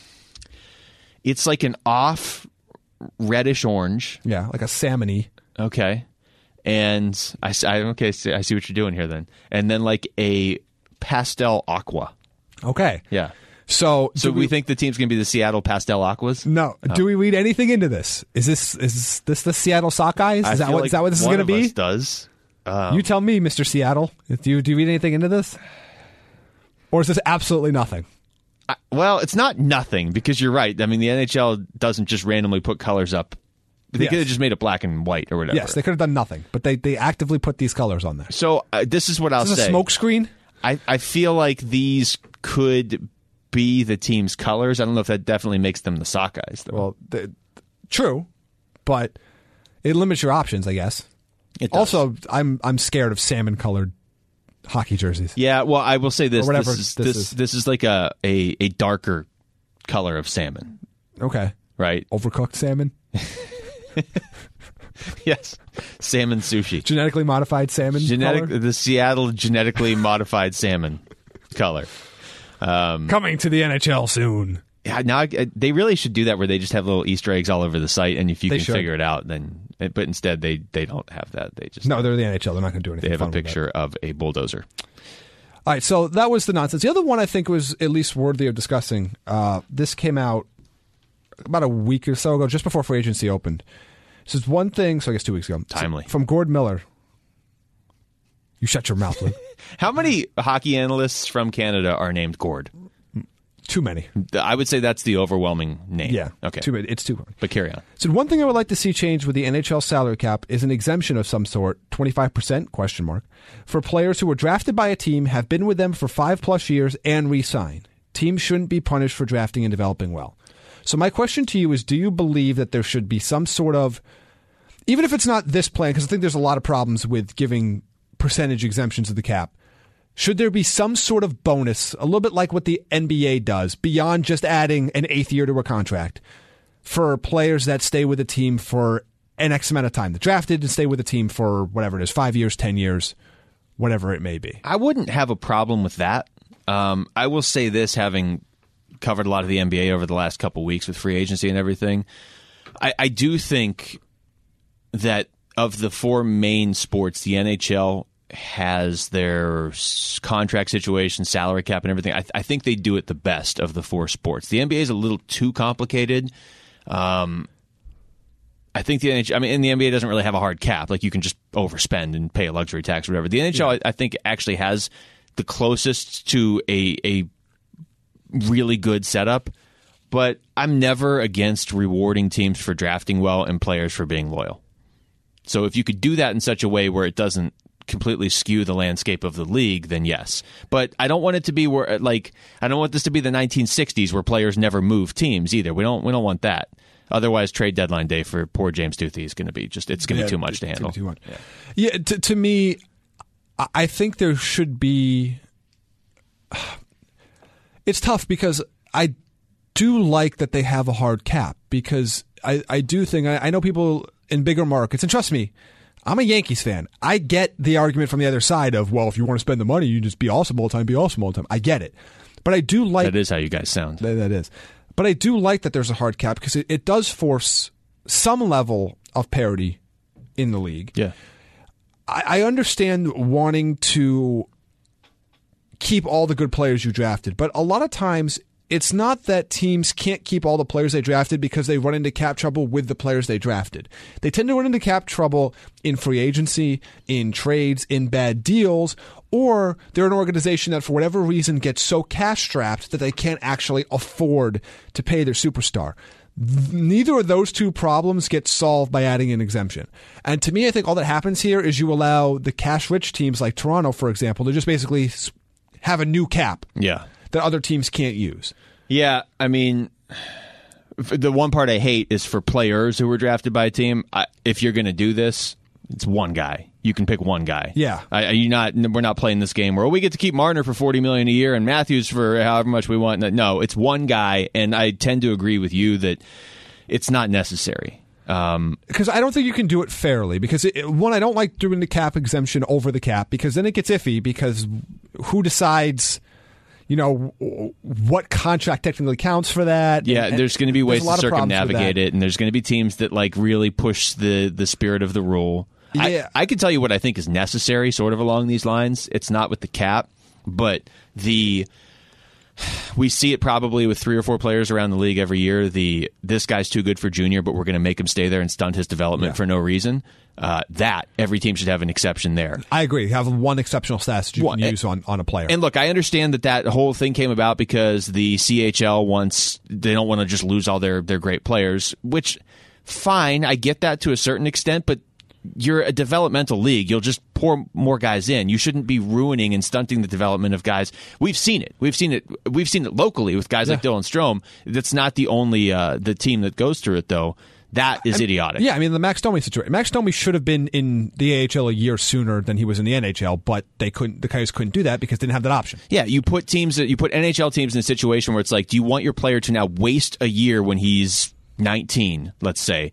it's like an off reddish orange. yeah, like a salmon-y. Okay. And I, s- I- okay, I see I see what you're doing here then. And then like a pastel aqua. Okay. Yeah. So, So do we, think the team's going to be the Seattle Pastel Aquas? no. Do we read anything into this? Is this is this the Seattle Sockeyes? Is I that feel what like is that what this is one going to of be? us does. Um, You tell me, Mister Seattle. Do you do you read anything into this? Or is this absolutely nothing? I- well, it's not nothing because you're right. I mean, the N H L doesn't just randomly put colors up. They Yes. could have just made it black and white or whatever. Yes, they could have done nothing, but they, they actively put these colors on there. So uh, this is what I'll Is this a say. smoke screen? I, I feel like these could be the team's colors. I don't know if that definitely makes them the Sockeyes, though. Well, th- true, but it limits your options, I guess. It does. Also, I'm I'm scared of salmon colored hockey jerseys. yeah. Well, I will say this: Or whatever this is this this, is. this is like a, a a darker color of salmon, Okay, right? overcooked salmon. Yes. Salmon sushi. Genetically modified salmon Genetic, color? the Seattle genetically modified salmon color. Um, Coming to the N H L soon. Yeah, now I- they really should do that where they just have little Easter eggs all over the site, and if you They can should. figure it out, then. But instead, they they don't have that. They just No, they're the N H L. They're not going to do anything they have fun a with that. picture of a bulldozer. All right, so that was the nonsense. The other one I think was at least worthy of discussing. Uh, this came out about a week or so ago, just before free agency opened. This is one thing, so I guess two weeks ago. Timely. So, from Gord Miller. You shut your mouth, Luke. How many hockey analysts from Canada are named Gord? Too many. I would say that's the overwhelming name. Yeah. Okay. Too many. It's too many. But carry on. So one thing I would like to see change with the N H L salary cap is an exemption of some sort, twenty-five percent, question mark, for players who were drafted by a team, have been with them for five plus years, and re-sign. Teams shouldn't be punished for drafting and developing well. So my question to you is, do you believe that there should be some sort of, even if it's not this plan, because I think there's a lot of problems with giving percentage exemptions of the cap, should there be some sort of bonus, a little bit like what the N B A does, beyond just adding an eighth year to a contract, for players that stay with a team for an X amount of time? They're drafted and stay with a team for whatever it is, five years, ten years, whatever it may be. I wouldn't have a problem with that. Um, I will say this, having covered a lot of the N B A over the last couple weeks with free agency and everything, I, I do think that of the four main sports, the N H L has their s- contract situation, salary cap, and everything. I, th- I think they do it the best of the four sports. The N B A is a little too complicated. Um, I think the N H L, I mean, and the N B A doesn't really have a hard cap. Like, you can just overspend and pay a luxury tax or whatever. The N H L, Yeah. I, I think, actually has the closest to a a really good setup. But I'm never against rewarding teams for drafting well and players for being loyal. So if you could do that in such a way where it doesn't completely skew the landscape of the league, then yes. But I don't want it to be where, like, I don't want this to be the nineteen sixties where players never move teams either. We don't we don't want that. Otherwise, trade deadline day for poor James Duthie is going to be just, it's going to Yeah, be too much to it's handle. Too much. Yeah, yeah to, to me, I- I think there should be. It's tough because I do like that they have a hard cap, because I, I do think, I, I know people in bigger markets, and trust me, I'm a Yankees fan. I get the argument from the other side of, well, if you want to spend the money, you just be awesome all the time, be awesome all the time. I get it. But I do like... That is how you guys sound. That, that is. But I do like that there's a hard cap, because it, it does force some level of parity in the league. Yeah. I, I understand wanting to keep all the good players you drafted, but a lot of times it's not that teams can't keep all the players they drafted because they run into cap trouble with the players they drafted. They tend to run into cap trouble in free agency, in trades, in bad deals, or they're an organization that for whatever reason gets so cash strapped that they can't actually afford to pay their superstar. Neither of those two problems get solved by adding an exemption. And to me, I think all that happens here is you allow the cash-rich teams like Toronto, for example, to just basically have a new cap Yeah. that other teams can't use. Yeah, I mean, f- the one part I hate is for players who were drafted by a team. I, if you're going to do this, it's one guy. You can pick one guy. Yeah. I, you not. We're not playing this game where we get to keep Marner for forty million dollars a year and Matthews for however much we want. No, it's one guy, and I tend to agree with you that it's not necessary. Um, Because I don't think you can do it fairly. Because, it, one, I don't like doing the cap exemption over the cap, because then it gets iffy, because who decides, you know, what contract technically counts for that? Yeah, And- there's going to be ways there's a lot to of problems with circumnavigate that. it, and there's going to be teams that like really push the the spirit of the rule. Yeah. I, I can tell you what I think is necessary, sort of along these lines. It's not with the cap, but the we see it probably with three or four players around the league every year. The this guy's too good for junior, but we're going to make him stay there and stunt his development Yeah. for no reason. Uh, that every team should have an exception there. I agree. Have one exceptional stat that you One- can use on, on a player. And look, I understand that that whole thing came about because the C H L wants, they don't want to just lose all their, their great players, which, fine, I get that to a certain extent, but you're a developmental league. You'll just pour more guys in. You shouldn't be ruining and stunting the development of guys. We've seen it. We've seen it. We've seen it locally with guys like Yeah. Dylan Strome. That's not the only uh, the team that goes through it, though. That is idiotic. Yeah, I mean, the Max Domi situation. Max Domi should have been in the A H L a year sooner than he was in the N H L, but they couldn't. The Coyotes couldn't do that because they didn't have that option. Yeah, you put teams, you put N H L teams in a situation where it's like, do you want your player to now waste a year when he's nineteen, let's say,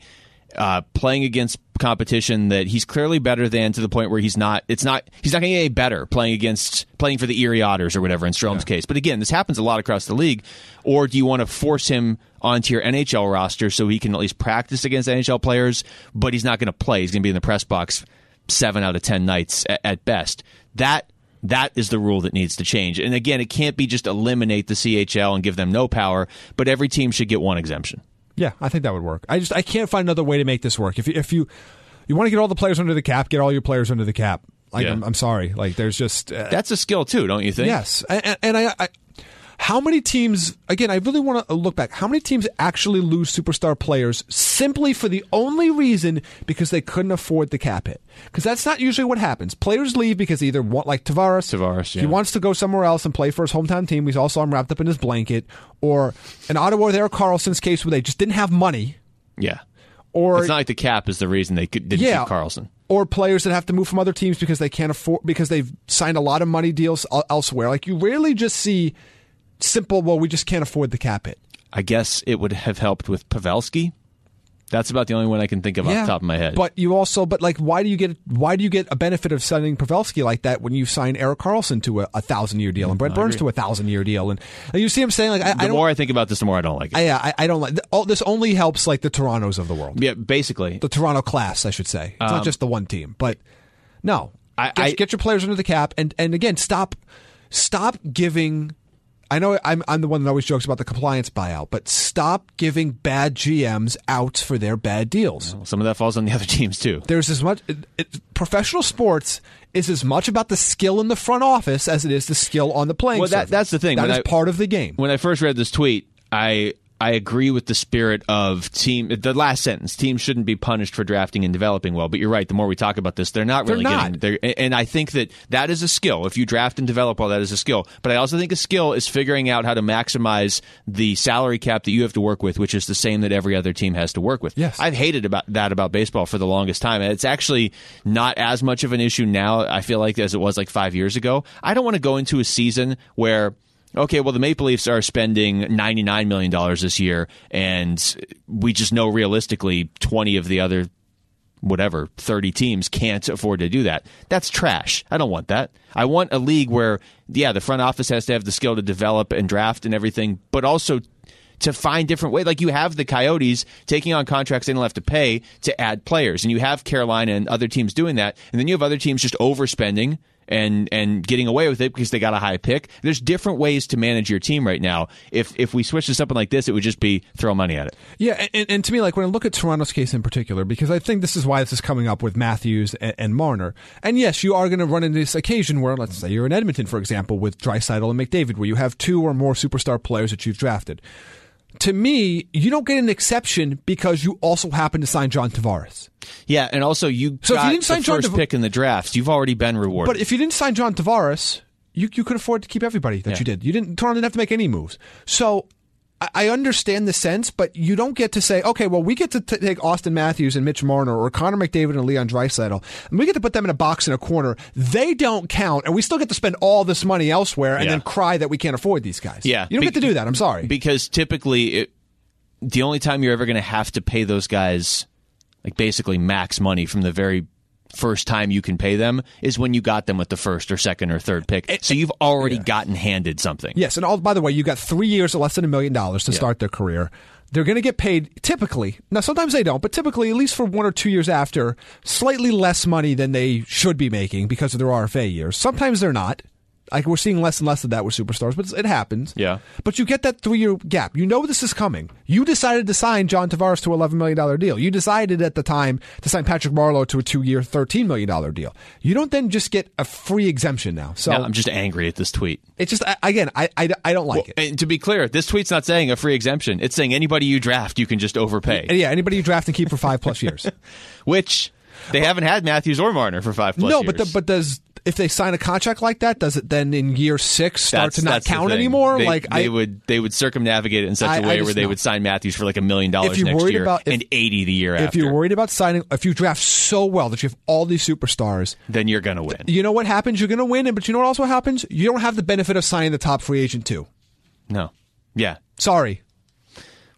uh, playing against competition that he's clearly better than, to the point where he's not. It's not. He's not going to get any better playing against playing for the Erie Otters or whatever in Strom's yeah. case. But again, this happens a lot across the league. Or do you want to force him onto your N H L roster so he can at least practice against N H L players, but he's not going to play? He's going to be in the press box seven out of ten nights at, at best. That. That is the rule that needs to change. And again, it can't be just eliminate the C H L and give them no power, but every team should get one exemption. Yeah, I think that would work. I just I can't find another way to make this work. If you, if you you want to get all the players under the cap, get all your players under the cap. Like yeah. I'm, I'm sorry. Like there's just uh, that's a skill too, don't you think? Yes, and, and I, I how many teams? Again, I really want to look back. How many teams actually lose superstar players simply for the only reason because they couldn't afford the cap hit? Because that's not usually what happens. Players leave because they either want, like Tavares, Tavares yeah. he wants to go somewhere else and play for his hometown team. He's also wrapped up in his blanket. Or in Ottawa, with Erik Karlsson's case, where they just didn't have money. Yeah. Or it's not like the cap is the reason they could, didn't yeah, keep Karlsson. Or players that have to move from other teams because they can't afford, because they've signed a lot of money deals elsewhere. Like you rarely just see simple, well, we just can't afford the cap hit. I guess it would have helped with Pavelski. That's about the only one I can think of yeah, off the top of my head. But you also, but like, why do you get why do you get a benefit of signing Pavelski like that when you sign Erik Karlsson to a, a thousand year deal and Brent I Burns agree. to a thousand year deal, and, and you see him saying like, I, the I don't, more I think about this, the more I don't like it. I, yeah, I, I don't like. All, this only helps like the Torontos of the world. Yeah, basically the Toronto class, I should say. It's um, not just the one team, but no, I, get, I, get your players under the cap, and and again, stop stop giving. I know I'm I'm the one that always jokes about the compliance buyout, but stop giving bad G Ms outs for their bad deals. Well, some of that falls on the other teams too. There's as much it, it, professional sports is as much about the skill in the front office as it is the skill on the playing well, that, surface. that's the thing. That when is I, part of the game. When I first read this tweet, I I agree with the spirit of team. The last sentence: teams shouldn't be punished for drafting and developing well. But you're right. The more we talk about this, they're not really they're not. getting. They're, and I think that that is a skill. If you draft and develop well, that is a skill. But I also think a skill is figuring out how to maximize the salary cap that you have to work with, which is the same that every other team has to work with. Yes. I've hated about that about baseball for the longest time, and it's actually not as much of an issue now. I feel like as it was like five years ago. I don't want to go into a season where. Okay, well, the Maple Leafs are spending ninety-nine million dollars this year, and we just know realistically twenty of the other, whatever, thirty teams can't afford to do that. That's trash. I don't want that. I want a league where, yeah, the front office has to have the skill to develop and draft and everything, but also to find different ways. Like you have the Coyotes taking on contracts they don't have to pay to add players, and you have Carolina and other teams doing that, and then you have other teams just overspending and and getting away with it because they got a high pick. There's different ways to manage your team right now. If if we switch to something like this, it would just be throw money at it. Yeah, and, and to me, like when I look at Toronto's case in particular, because I think this is why this is coming up with Matthews and, and Marner. And yes, you are going to run into this occasion where, let's say you're in Edmonton, for example, with Draisaitl and McDavid, where you have two or more superstar players that you've drafted. To me, you don't get an exception because you also happen to sign John Tavares. Yeah, and also you so got if you didn't sign the John first Tav- pick in the draft. You've already been rewarded. But if you didn't sign John Tavares, you you could afford to keep everybody that yeah. you did. You didn't. Toronto didn't have to make any moves. So I, I understand the sense, but you don't get to say, okay, well, we get to t- take Austin Matthews and Mitch Marner or Connor McDavid and Leon Draisaitl, and we get to put them in a box in a corner. They don't count, and we still get to spend all this money elsewhere and yeah. then cry that we can't afford these guys. Yeah, you don't Be- get to do that. I'm sorry. Because typically, it, the only time you're ever going to have to pay those guys, like basically max money from the very first time you can pay them, is when you got them with the first or second or third pick. So you've already yeah. gotten handed something. Yes, and all, by the way, you got three years or less than a million dollars to yeah. start their career. They're going to get paid typically. Now, sometimes they don't, but typically, at least for one or two years after, slightly less money than they should be making because of their R F A years. Sometimes they're not. Like we're seeing less and less of that with superstars, but it happens. Yeah. But you get that three-year gap. You know this is coming. You decided to sign John Tavares to an eleven million dollars deal. You decided at the time to sign Patrick Marleau to a two-year, thirteen million dollars deal. You don't then just get a free exemption now. So now, I'm just angry at this tweet. It's just, again, I, I, I don't like well, it. And to be clear, this tweet's not saying a free exemption. It's saying anybody you draft, you can just overpay. Yeah, anybody you draft and keep for five plus years. Which they haven't had Matthews or Marner for five plus no, years. No, but the, but does... If they sign a contract like that, does it then in year six start that's, to not that's count the anymore? They, like they I, would, they would circumnavigate it in such I, a way where they know. would sign Matthews for like a million dollars you're next worried year about, if, and eighty the year if after. If you're worried about signing, if you draft so well that you have all these superstars, then you're going to win. You know what happens? You're going to win, but you know what also happens? You don't have the benefit of signing the top free agent too. No. Yeah. Sorry. Wow.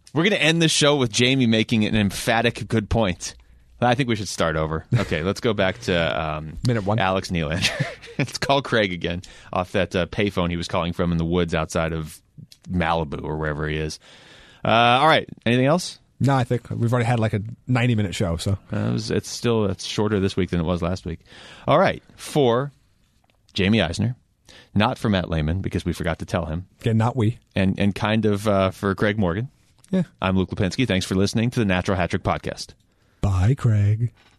We're going to end the show with Jamie making an emphatic good point. I think we should start over. Okay, let's go back to um, Minute one. Alex Nylander. Let's call Craig again off that uh, payphone he was calling from in the woods outside of Malibu or wherever he is. Uh, all right, anything else? No, I think we've already had like a ninety-minute show. So uh, it was, it's still it's shorter this week than it was last week. All right, for Jamie Eisner, not for Matt Lehman because we forgot to tell him. again, not we. And, and kind of uh, for Craig Morgan. Yeah. I'm Luke Lipinski. Thanks for listening to the Natural Hat Trick Podcast. Bye, Craig.